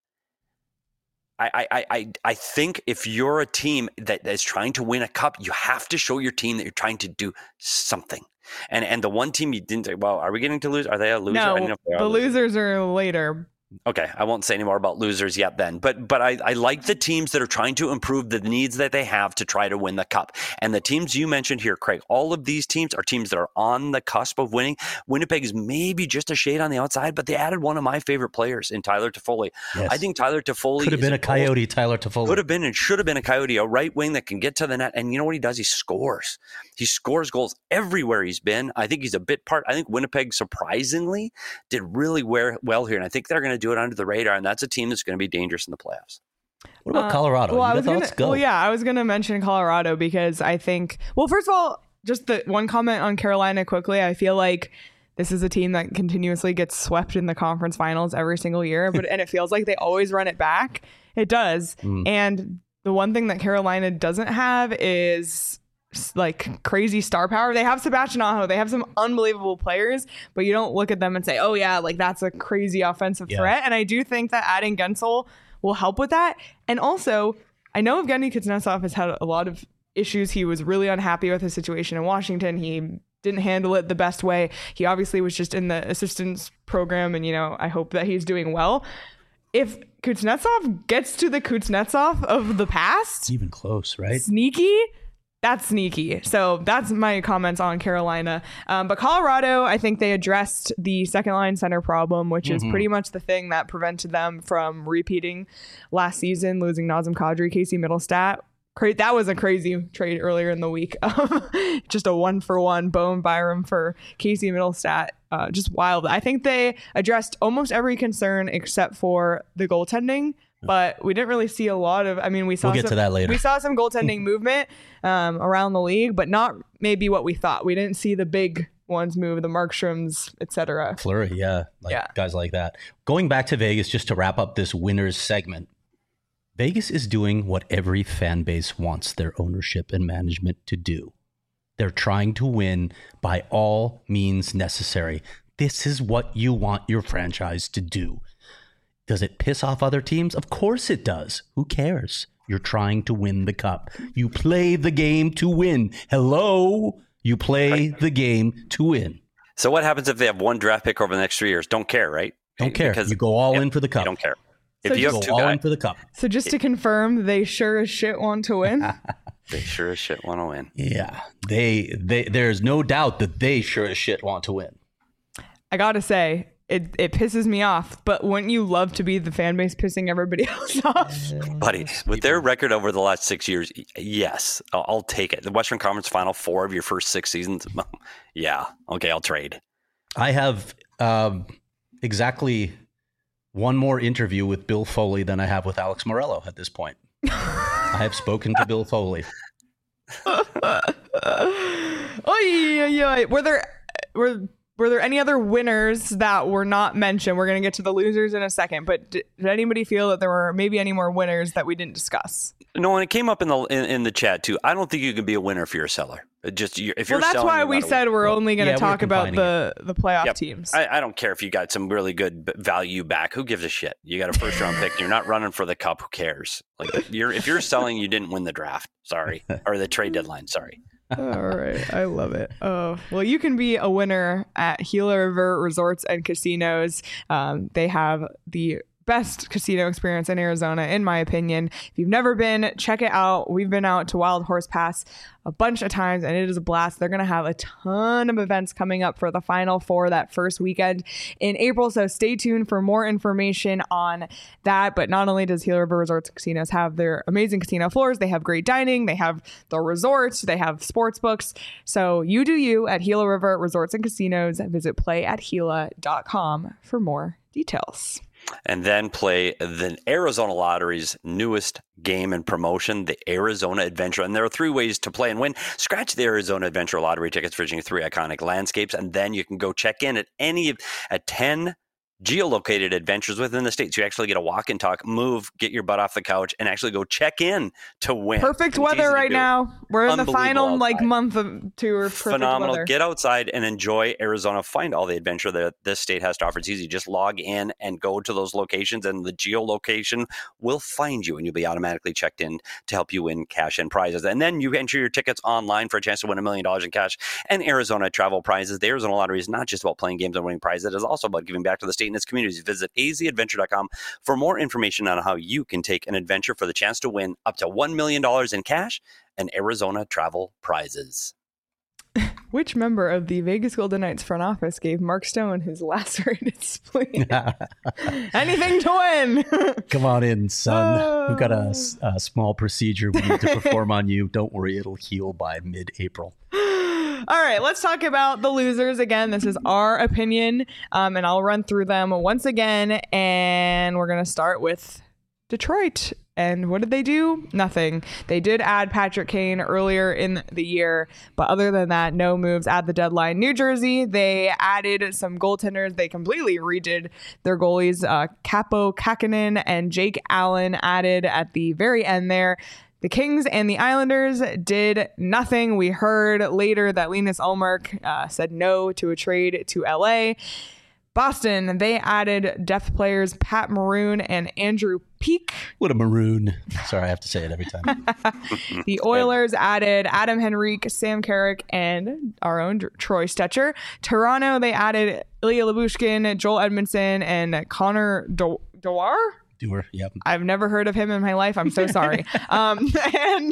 I, I I I think if you're a team that is trying to win a cup, you have to show your team that you're trying to do something. And and the one team you didn't say, well, are we getting to lose? Are they a loser? No, I don't know if they are the losers are later. Okay, I won't say any more about losers yet then. But but I, I like the teams that are trying to improve the needs that they have to try to win the cup. And the teams you mentioned here, Craig, all of these teams are teams that are on the cusp of winning. Winnipeg is maybe just a shade on the outside, but they added one of my favorite players in Tyler Toffoli. Yes. I think Tyler Toffoli could have been a Coyote, Tyler Toffoli. Could have been and should have been a Coyote, a right wing that can get to the net. And you know what he does? He scores. He scores goals everywhere he's been. I think he's a bit part. I think Winnipeg, surprisingly, did really well here. And I think they're going to do it under the radar. And that's a team that's going to be dangerous in the playoffs. What about uh, Colorado? Well, I was gonna, go. well, yeah, I was going to mention Colorado because I think, well, first of all, just the one comment on Carolina quickly. I feel like this is a team that continuously gets swept in the conference finals every single year, but and it feels like they always run it back. It does. Mm. And the one thing that Carolina doesn't have is like crazy star power. They have Sebastian Aho. They have some unbelievable players, but you don't look at them and say, oh yeah, like that's a crazy offensive yeah. threat. And I do think that adding Gensel will help with that. And also, I know Evgeny Kuznetsov has had a lot of issues. He was really unhappy with his situation in Washington. He didn't handle it the best way. He obviously was just in the assistance program, and you know, I hope that he's doing well. If Kuznetsov gets to the Kuznetsov of the past, even close, right? Sneaky. That's sneaky. So that's my comments on Carolina. Um, but Colorado, I think they addressed the second line center problem, which mm-hmm. is pretty much the thing that prevented them from repeating last season, losing Nazem Kadri, Casey Middlestat. Cra- that was a crazy trade earlier in the week. Just a one for one Bowen Byram for Casey Middlestat. Uh, just wild. I think they addressed almost every concern except for the goaltending. But we didn't really see a lot of, I mean, we saw we'll get some, to that later. We saw some goaltending movement um, around the league, but not maybe what we thought. We didn't see the big ones move, the Markstroms, et cetera. Fleury, yeah, like yeah. guys like that. Going back to Vegas, just to wrap up this winners segment, Vegas is doing what every fan base wants their ownership and management to do. They're trying to win by all means necessary. This is what you want your franchise to do. Does it piss off other teams? Of course it does. Who cares? You're trying to win the cup. You play the game to win. Hello? You play the game to win. So what happens if they have one draft pick over the next three years? Don't care, right? Don't care. Because you go all in for the cup. You don't care. So if you have go all guys, in for the cup. So just to confirm, they sure as shit want to win? They sure as shit want to win. Yeah. They they there's no doubt that they sure as shit want to win. I gotta say, It it pisses me off, but wouldn't you love to be the fan base pissing everybody else off? Buddy, with their record over the last six years, yes, I'll, I'll take it. The Western Conference Final Four of your first six seasons, yeah, okay, I'll trade. I have um, exactly one more interview with Bill Foley than I have with Alex Morello at this point. I have spoken to Bill Foley. Oy, oy, oy. Were there... Were, Were there any other winners that were not mentioned? We're going to get to the losers in a second, but did, did anybody feel that there were maybe any more winners that we didn't discuss? No, and it came up in the in, in the chat too. I don't think you can be a winner if you're a seller. Just if well, you're that's selling, why we said we're well, only going to yeah, talk about the, the playoff yep. teams. I, I don't care if you got some really good value back. Who gives a shit? You got a first round pick. You're not running for the cup. Who cares? Like you're if you're selling, you didn't win the draft. Sorry, or the trade deadline. Sorry. All right. I love it. Oh, well, you can be a winner at Gila River Resorts and Casinos. Um, they have the best casino experience in Arizona, in my opinion. If you've never been, check it out. We've been out to Wild Horse Pass a bunch of times, and it is a blast. They're going to have a ton of events coming up for the Final Four that first weekend in April, so stay tuned for more information on that. But not only does Gila River Resorts and Casinos have their amazing casino floors, they have great dining, they have the resorts, they have sports books. So you do you at Gila River Resorts and Casinos. Visit play at gila dot com for more details. And then play the Arizona Lottery's newest game and promotion, the Arizona Adventure. And there are three ways to play and win. Scratch the Arizona Adventure Lottery tickets featuring three iconic landscapes, and then you can go check in at any of at ten geolocated adventures within the state. So you actually get a walk and talk, move, get your butt off the couch, and actually go check in to win. Perfect weather right now. We're in the final like month of tour. Phenomenal. Weather. Get outside and enjoy Arizona. Find all the adventure that this state has to offer. It's easy. Just log in and go to those locations, and the geolocation will find you, and you'll be automatically checked in to help you win cash and prizes. And then you enter your tickets online for a chance to win a million dollars in cash and Arizona travel prizes. The Arizona Lottery is not just about playing games and winning prizes. It is also about giving back to the state and its communities. Visit a z adventure dot com for more information on how you can take an adventure for the chance to win up to one million dollars in cash and Arizona travel prizes. Which member of the Vegas Golden Knights front office gave Mark Stone his lacerated spleen? Anything to win. Come on in, son. Uh, We've got a, a small procedure we need to perform on you. Don't worry, it'll heal by mid-April. All right, let's talk about the losers. Again, this is our opinion, um, and I'll run through them once again, and we're going to start with Detroit. And what did they do? Nothing. They did add Patrick Kane earlier in the year, but other than that, no moves at the deadline. New Jersey, they added some goaltenders. They completely redid their goalies. Uh, Capo Kakkonen and Jake Allen added at the very end there. The Kings and the Islanders did nothing. We heard later that Linus Ullmark uh, said no to a trade to L A. Boston, they added depth players Pat Maroon and Andrew Peak. What a maroon. Sorry, I have to say it every time. The Oilers added Adam Henrique, Sam Carrick, and our own Troy Stetcher. Toronto, they added Ilya Lyubushkin, Joel Edmondson, and Connor Do- Dwyer. Doer, yep. I've never heard of him in my life. I'm so sorry. um, and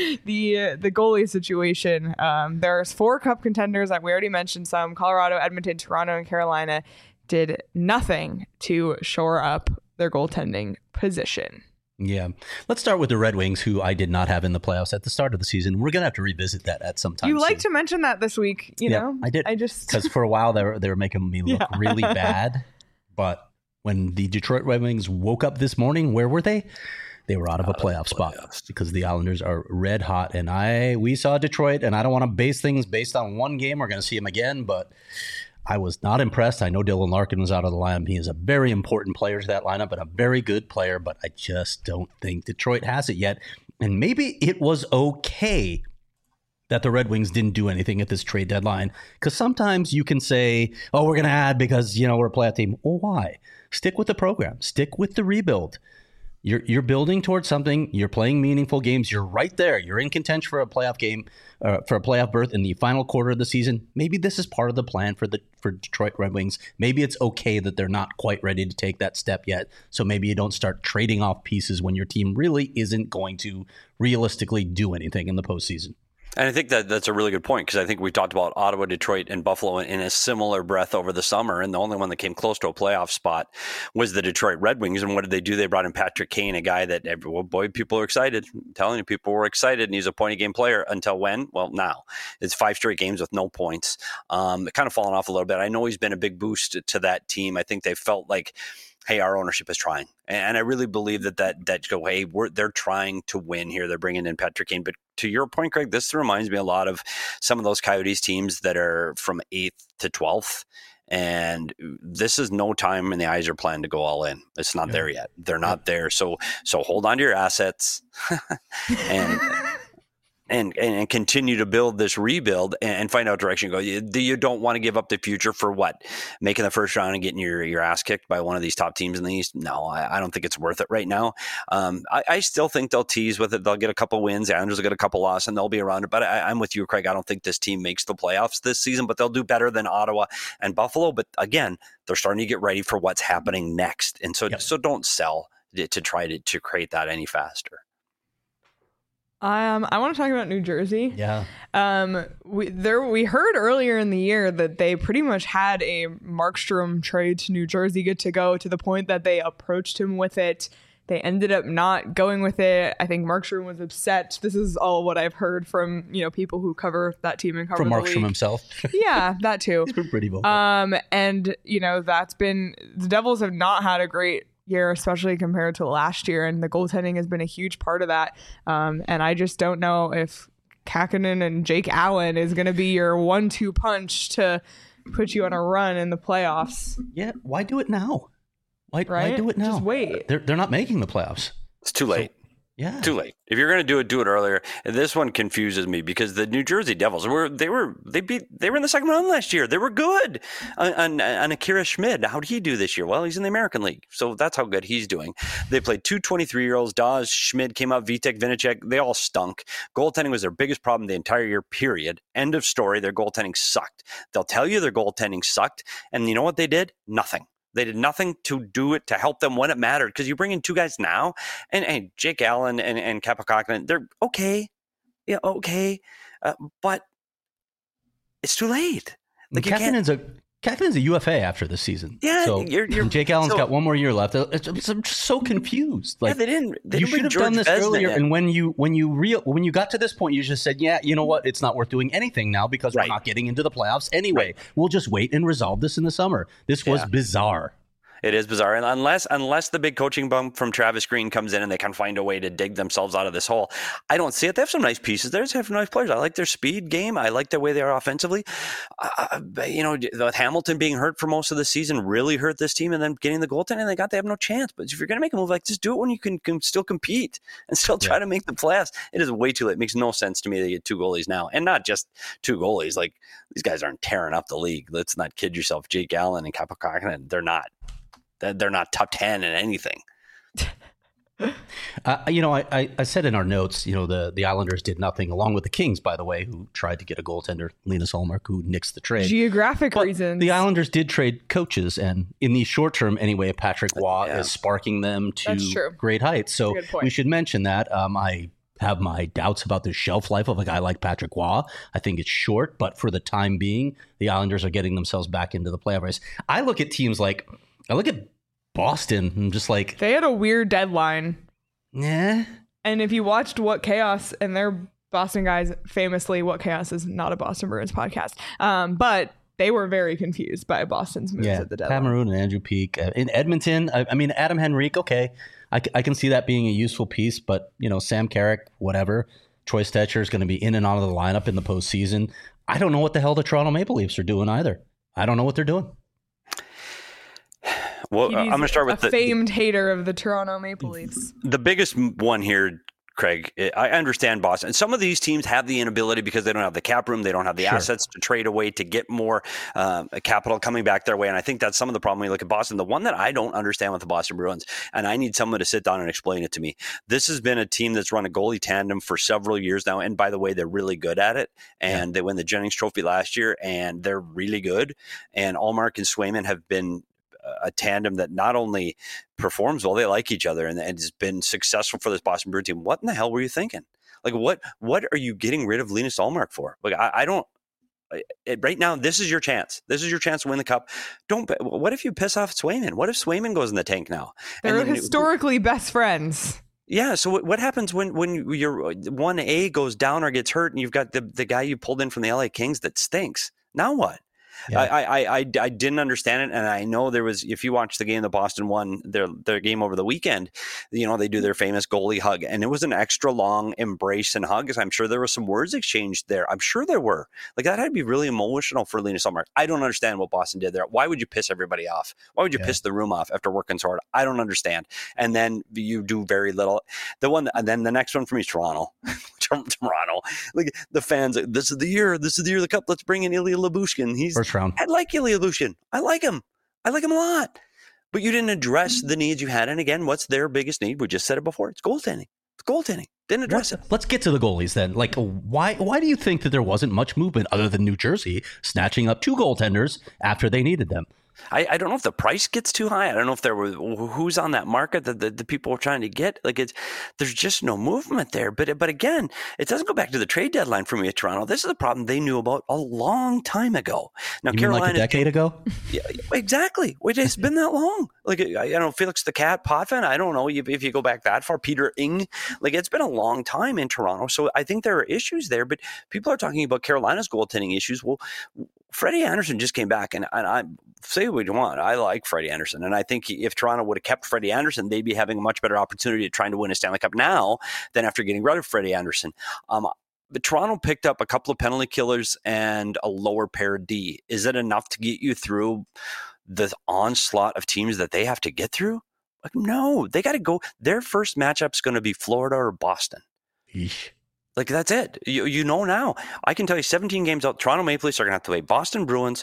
the the goalie situation. Um, there's four cup contenders that we already mentioned. Some Colorado, Edmonton, Toronto, and Carolina did nothing to shore up their goaltending position. Yeah. Let's start with the Red Wings, who I did not have in the playoffs at the start of the season. We're going to have to revisit that at some time. You like soon. to mention that this week, you yeah, know? I did. I just because for a while they were, they were making me look Yeah. really bad. But when the Detroit Red Wings woke up this morning, where were they? They were out of a playoff spot because the Islanders are red hot. And I we saw Detroit, and I don't want to base things based on one game. We're going to see them again, but I was not impressed. I know Dylan Larkin was out of the lineup. He is a very important player to that lineup and a very good player, but I just don't think Detroit has it yet. And maybe it was okay that the Red Wings didn't do anything at this trade deadline, because sometimes you can say, oh, we're going to add because, you know, we're a playoff team. Well, why? Stick with the program. Stick with the rebuild. You're you're building towards something. You're playing meaningful games. You're right there. You're in contention for a playoff game, uh, for a playoff berth in the final quarter of the season. Maybe this is part of the plan for the for Detroit Red Wings. Maybe it's okay that they're not quite ready to take that step yet. So maybe you don't start trading off pieces when your team really isn't going to realistically do anything in the postseason. And I think that that's a really good point, because I think we talked about Ottawa, Detroit, and Buffalo in a similar breath over the summer, and the only one that came close to a playoff spot was the Detroit Red Wings. And what did they do? They brought in Patrick Kane, a guy that, every, well, boy, people are excited. I'm telling you, people were excited, and he's a point-a-game player until when? Well, now. It's five straight games with no points. Um, kind of fallen off a little bit. I know he's been a big boost to that team. I think they felt like, hey, our ownership is trying. And I really believe that that, that go, hey, we're, they're trying to win here. They're bringing in Patrick Kane. But to your point, Craig, this reminds me a lot of some of those Coyotes teams that are from eighth to twelfth. And this is no time in the eyes are planned to go all in. It's not yeah. there yet. They're not yeah. there. So so hold on to your assets and And, and continue to build this rebuild and find out direction. Go. You, you don't want to give up the future for what? Making the first round and getting your, your ass kicked by one of these top teams in the East? No, I, I don't think it's worth it right now. Um, I, I still think they'll tease with it. They'll get a couple wins. The Islanders will get a couple losses, and they'll be around it. But I, I'm with you, Craig. I don't think this team makes the playoffs this season, but they'll do better than Ottawa and Buffalo. But again, they're starting to get ready for what's happening next. And so, yep. so don't sell to, to try to, to create that any faster. Um, I want to talk about New Jersey. Yeah. Um, we there we heard earlier in the year that they pretty much had a Markstrom trade to New Jersey good to go, to the point that they approached him with it. They ended up not going with it. I think Markstrom was upset. This is all what I've heard from, you know, people who cover that team and cover from the Markstrom league. himself. Yeah, that too. He's been pretty vocal. Um, and you know, that's been the Devils have not had a great year, especially compared to last year, and the goaltending has been a huge part of that. Um, and I just don't know if Kakkonen and Jake Allen is going to be your one two punch to put you on a run in the playoffs. Yeah, why do it now? Why, right? why do it now? Just wait. They're they're not making the playoffs. It's too late. So, yeah, too late. If you're going to do it, do it earlier. And this one confuses me because the New Jersey Devils were they were they beat they were in the second round last year. They were good on, on, on Akira Schmid. How did he do this year? Well, he's in the American League, so that's how good he's doing. They played two twenty-three year olds. Dawes, Schmid came out. Vitek, Vinacek. They all stunk. Goaltending was their biggest problem the entire year. Period. End of story. Their goaltending sucked. They'll tell you their goaltending sucked, and you know what they did? Nothing. They did nothing to do it to help them when it mattered, because you bring in two guys now, and, and Jake Allen and, and Capo Kakkonen, they're okay. Yeah, okay. Uh, but it's too late. Like Kakkonen's a Kakkonen's a U F A after this season. Yeah, so, you're, you're, and Jake Allen's so, got one more year left. It's, it's, I'm just so confused. Like, yeah, they didn't. They you didn't should have George done this Vezina earlier. in. And when you when you real when you got to this point, you just said, yeah, you know what? It's not worth doing anything now because right. we're not getting into the playoffs anyway. Right. We'll just wait and resolve this in the summer. This was yeah. bizarre. It is bizarre. And unless unless the big coaching bump from Travis Green comes in and they can find a way to dig themselves out of this hole, I don't see it. They have some nice pieces. They have some nice players. I like their speed game. I like the way they are offensively. Uh, you know, with Hamilton being hurt for most of the season really hurt this team, and then getting the goaltending they got, they have no chance. But if you're going to make a move like this, do it when you can, can still compete and still try yeah. to make the playoffs. It is way too late. It makes no sense to me that you get two goalies now. And not just two goalies. Like, these guys aren't tearing up the league. Let's not kid yourself. Jake Allen and Kaapo Kähkönen, they're not. They're not top ten in anything. Uh, you know, I, I, I said in our notes, you know, the, the Islanders did nothing, along with the Kings, by the way, who tried to get a goaltender, Linus Ullmark, who nixed the trade. Geographic but reasons. The Islanders did trade coaches, and in the short term, anyway, Patrick Waugh yeah. is sparking them to great heights. So we should mention that. Um, I have my doubts about the shelf life of a guy like Patrick Waugh. I think it's short, but for the time being, the Islanders are getting themselves back into the playoff race. I look at teams like, I look at Boston and just like... They had a weird deadline. Yeah. And if you watched What Chaos, and they're Boston guys, famously, What Chaos is not a Boston Bruins podcast, um, but they were very confused by Boston's moves yeah, at the deadline. Pat Maroon and Andrew Peeke. Uh, in Edmonton, I, I mean, Adam Henrique, okay. I, I can see that being a useful piece, but, you know, Sam Carrick, whatever. Troy Stetcher is going to be in and out of the lineup in the postseason. I don't know what the hell the Toronto Maple Leafs are doing either. I don't know what they're doing. Well, I'm going to start with a the famed hater of the Toronto Maple Leafs. The biggest one here, Craig, I understand Boston. Some of these teams have the inability because they don't have the cap room. They don't have the sure. assets to trade away to get more um, capital coming back their way. And I think that's some of the problem when you look at Boston. The one that I don't understand with the Boston Bruins, and I need someone to sit down and explain it to me. This has been a team that's run a goalie tandem for several years now. And by the way, they're really good at it. And yeah. they won the Jennings Trophy last year, and they're really good. And Ullmark and Swayman have been a tandem that not only performs well, they like each other, and, and has been successful for this Boston Bruins team. What in the hell were you thinking? Like, what what are you getting rid of Linus Ullmark for? Like, I, I don't. It, right now, this is your chance. This is your chance to win the cup. Don't. What if you piss off Swayman? What if Swayman goes in the tank now? They're historically it, best friends. Yeah. So what, what happens when when your one A goes down or gets hurt, and you've got the the guy you pulled in from the L A Kings that stinks? Now what? Yeah. I, I, I, I didn't understand it. And I know there was, if you watch the game, the Boston won their, their game over the weekend, you know, they do their famous goalie hug, and it was an extra long embrace and hug. I'm sure there were some words exchanged there. I'm sure there were. Like, that had to be really emotional for Linus Ullmark. I don't understand what Boston did there. Why would you piss everybody off? Why would you yeah. piss the room off after working so hard? I don't understand. And then you do very little. The one, and then the next one for me is Toronto. Toronto. Like, the fans, this is the year, this is the year of the cup. Let's bring in Ilya Lyubushkin. He's first round. I like Ilya Lyubushkin. I like him. I like him a lot. But you didn't address the needs you had. And again, what's their biggest need? We just said it before. It's goaltending. It's goaltending. Didn't address let's, it. Let's get to the goalies then. Like, why why do you think that there wasn't much movement other than New Jersey snatching up two goaltenders after they needed them? I, I don't know if the price gets too high. I don't know if there were who's on that market that the, the people are trying to get. Like, it's there's just no movement there. But but again, it doesn't go back to the trade deadline for me at Toronto. This is a problem they knew about a long time ago. Now, you Carolina, mean like a decade ago? Yeah, exactly. It's been that long. Like, I, I don't know, Felix the Cat Potvin. I don't know if, if you go back that far. Peter Ing. Like, it's been a long time in Toronto. So I think there are issues there. But people are talking about Carolina's goaltending issues. Well, Freddie Anderson just came back, and, and I say what you want. I like Freddie Anderson, and I think he, if Toronto would have kept Freddie Anderson, they'd be having a much better opportunity at trying to win a Stanley Cup now than after getting rid of Freddie Anderson. Um, but Toronto picked up a couple of penalty killers and a lower pair D. Is it enough to get you through the onslaught of teams that they have to get through? Like, no, they got to go. Their first matchup's going to be Florida or Boston. Eesh. Like, that's it. You you know now. I can tell you seventeen games out, Toronto Maple Leafs are going to have to play Boston Bruins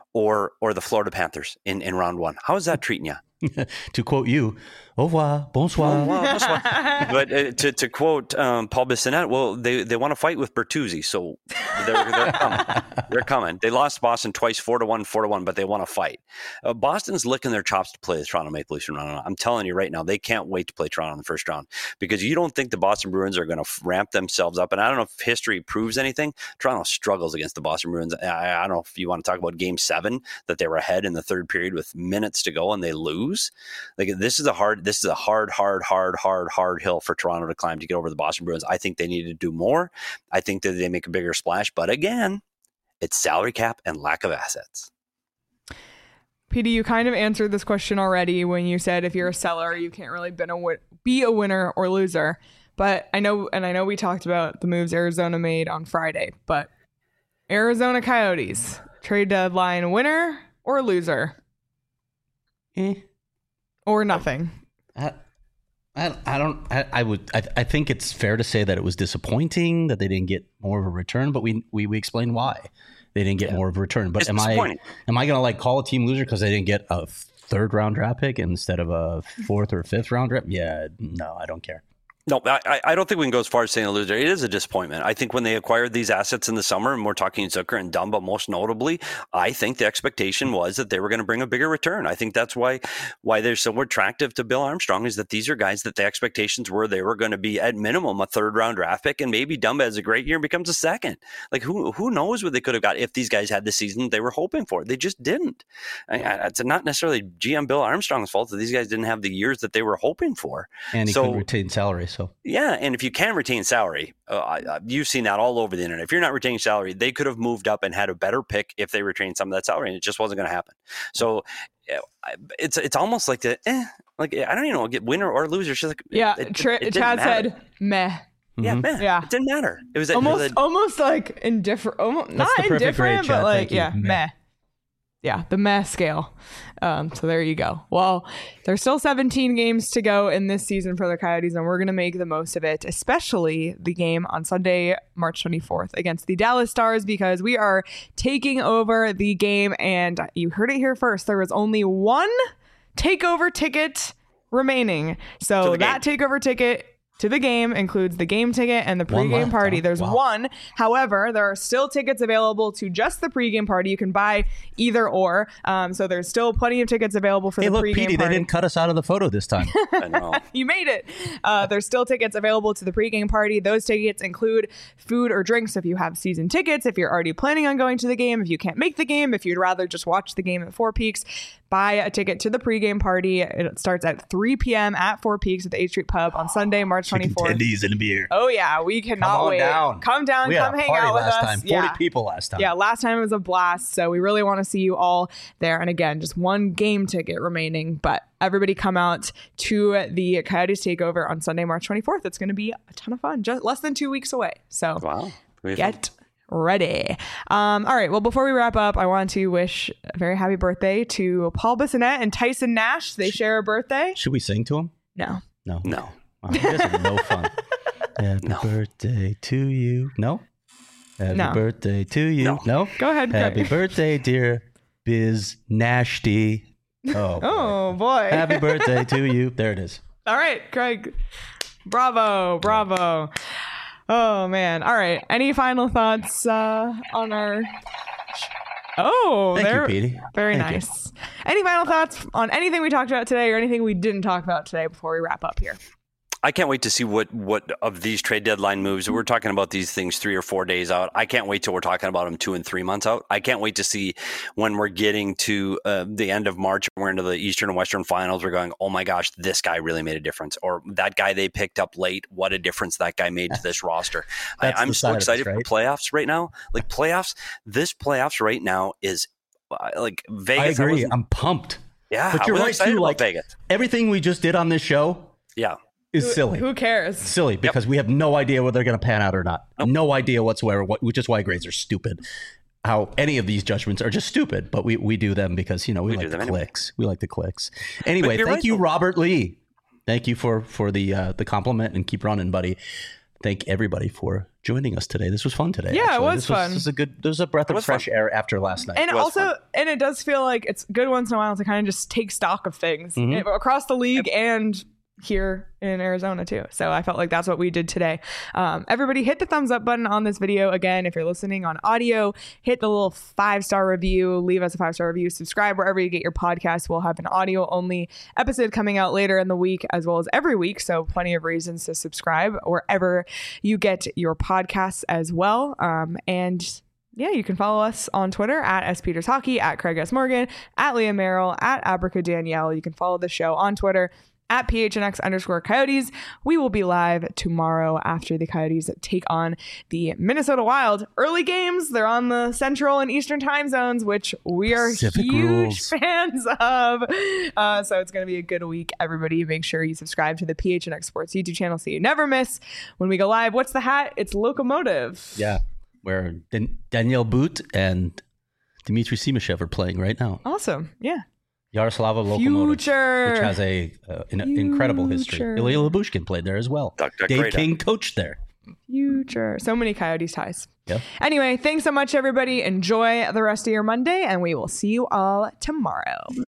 or or the Florida Panthers in, in round one. How is that treating you? To quote you, au revoir, bonsoir. Au revoir, bonsoir. But uh, to, to quote um, Paul Bissonnette, well, they, they want to fight with Bertuzzi, so they're, they're coming. They're coming. They lost Boston twice, four to one, four to one, but they want to fight. Uh, Boston's licking their chops to play the Toronto Maple Leafs. I'm telling you right now, they can't wait to play Toronto in the first round, because you don't think the Boston Bruins are going to ramp themselves up. And I don't know if history proves anything. Toronto struggles against the Boston Bruins. I, I don't know if you want to talk about game seven, that they were ahead in the third period with minutes to go and they lose. Like, this is a hard, this is a hard, hard, hard, hard, hard hill for Toronto to climb to get over the Boston Bruins. I think they need to do more. I think that they make a bigger splash, but again, it's salary cap and lack of assets. P D, you kind of answered this question already when you said if you're a seller, you can't really be a, win- be a winner or loser. But I know, and I know we talked about the moves Arizona made on Friday, but Arizona Coyotes, trade deadline winner or loser? Eh. Or nothing? I, I, I don't, I, I would, I, I think it's fair to say that it was disappointing that they didn't get more of a return, but we, we, we explained why they didn't get yeah. more of a return. But it's am I, am I going to like call a team loser because they didn't get a third round draft pick instead of a fourth or fifth round draft? Yeah, no, I don't care. No, I, I don't think we can go as far as saying a loser. It is a disappointment. I think when they acquired these assets in the summer, and we're talking Zucker and Dumba most notably, I think the expectation was that they were going to bring a bigger return. I think that's why why they're so attractive to Bill Armstrong is that these are guys that the expectations were they were going to be at minimum a third round draft pick, and maybe Dumba has a great year and becomes a second. Like who who knows what they could have got if these guys had the season they were hoping for. They just didn't. I, I, it's not necessarily G M Bill Armstrong's fault that these guys didn't have the years that they were hoping for. And he so, couldn't retain salary, so yeah, and if you can retain salary, uh, you've seen that all over the internet. If you're not retaining salary, they could have moved up and had a better pick if they retained some of that salary, and it just wasn't going to happen. So it's it's almost like the eh, like I don't even know, get winner or loser. She's like, yeah. It, Tra- it, it Chad matter. said, "Meh." Yeah, mm-hmm. meh. Yeah, it didn't matter. It was almost it was a, almost like indifferent. Almost, not the perfect indifferent, grade, but Chad. like Thank you. yeah, meh. meh. Yeah, the meh scale. Um, so there you go. Well, there's still seventeen games to go in this season for the Coyotes, and we're going to make the most of it, especially the game on Sunday, March twenty-fourth against the Dallas Stars, because we are taking over the game. And you heard it here first. There was only one takeover ticket remaining. So that takeover ticket to the game includes the game ticket and the pregame party. There's wow. one. However, there are still tickets available to just the pregame party. You can buy either or. Um, so there's still plenty of tickets available for hey, the look, pregame Petey, party. They didn't cut us out of the photo this time. I know. You made it. Uh, there's still tickets available to the pregame party. Those tickets include food or drinks if you have season tickets, if you're already planning on going to the game, if you can't make the game, if you'd rather just watch the game at Four Peaks. Buy a ticket to the pregame party. It starts at three p.m. at Four Peaks at the H Street Pub on Sunday, March twenty-fourth. Tendies and a beer. Oh yeah, we cannot come on wait. Down. Come down, we come had a hang party out with last us. Time. Forty yeah. people last time. Yeah, last time it was a blast. So we really want to see you all there. And again, just one game ticket remaining, but everybody come out to the Coyotes takeover on Sunday, March twenty-fourth. It's going to be a ton of fun. Just less than two weeks away. So wow. get ready. Um, all right. Well, before we wrap up, I want to wish a very happy birthday to Paul Bissonnette and Tyson Nash. They share a birthday. Should we sing to him? No. No. No. Oh, you guys are no fun. Happy no. birthday to you. No? Happy no. birthday to you. No. no? Go ahead. Happy Craig. birthday, dear Biz Nashty. Oh, boy. Oh, boy. Happy birthday to you. There it is. All right, Craig. Bravo. Bravo. Oh, man. All right. Any final thoughts uh, on our... Oh, Thank they're you, Petey. very Thank nice. You. Any final thoughts on anything we talked about today or anything we didn't talk about today before we wrap up here? I can't wait to see what, what of these trade deadline moves. We're talking about these things three or four days out. I can't wait till we're talking about them two and three months out. I can't wait to see when we're getting to uh, the end of March and we're into the Eastern and Western finals. We're going, oh my gosh, this guy really made a difference. Or that guy they picked up late, what a difference that guy made to this roster. I, I'm so excited this, right? for playoffs right now. Like playoffs, this playoffs right now is uh, like Vegas. I agree. I I'm pumped. Yeah, but you're right too. Like Vegas. Everything we just did on this show. Yeah. Is who, silly. Who cares? Silly because yep. we have no idea whether they're going to pan out or not. Nope. No idea whatsoever, which is why grades are stupid. How any of these judgments are just stupid, but we, we do them because, you know, we, we like the clicks. Anyway. We like the clicks. Anyway, thank right, you, though. Robert Lee. Thank you for, for the uh, the compliment and keep running, buddy. Thank everybody for joining us today. This was fun today. Yeah, actually. it was this fun. Was, this was a good. There's a breath of fresh fun. air after last night. And also, fun. and it does feel like it's good once in a while to kind of just take stock of things mm-hmm. across the league yep. and here in Arizona too. So I felt like that's what we did today. Um, everybody hit the thumbs up button on this video. Again, if you're listening on audio, hit the little five star review, leave us a five star review, subscribe wherever you get your podcasts. We'll have an audio only episode coming out later in the week as well as every week. So plenty of reasons to subscribe wherever you get your podcasts as well. Um, and yeah, you can follow us on Twitter at S Peters Hockey, at Craig S Morgan, at Leah Merrill, at Abraca Danielle. You can follow the show on Twitter at P H N X underscore Coyotes. We will be live tomorrow after the Coyotes take on the Minnesota Wild. Early games. They're on the Central and Eastern time zones, which we are Pacific huge rules. fans of. Uh, so it's going to be a good week. Everybody, make sure you subscribe to the P H N X Sports YouTube channel so you never miss when we go live. What's the hat? It's Locomotive. Yeah, where Dan- Daniel Boot and Dmitry Simashev are playing right now. Awesome. Yeah. Yaroslava Locomotive, Future. which has a uh, an incredible history. Future. Ilya Labushkin played there as well. Duck, duck, Dave great, King coached there. Future. So many Coyotes ties. Yeah. Anyway, thanks so much, everybody. Enjoy the rest of your Monday, and we will see you all tomorrow.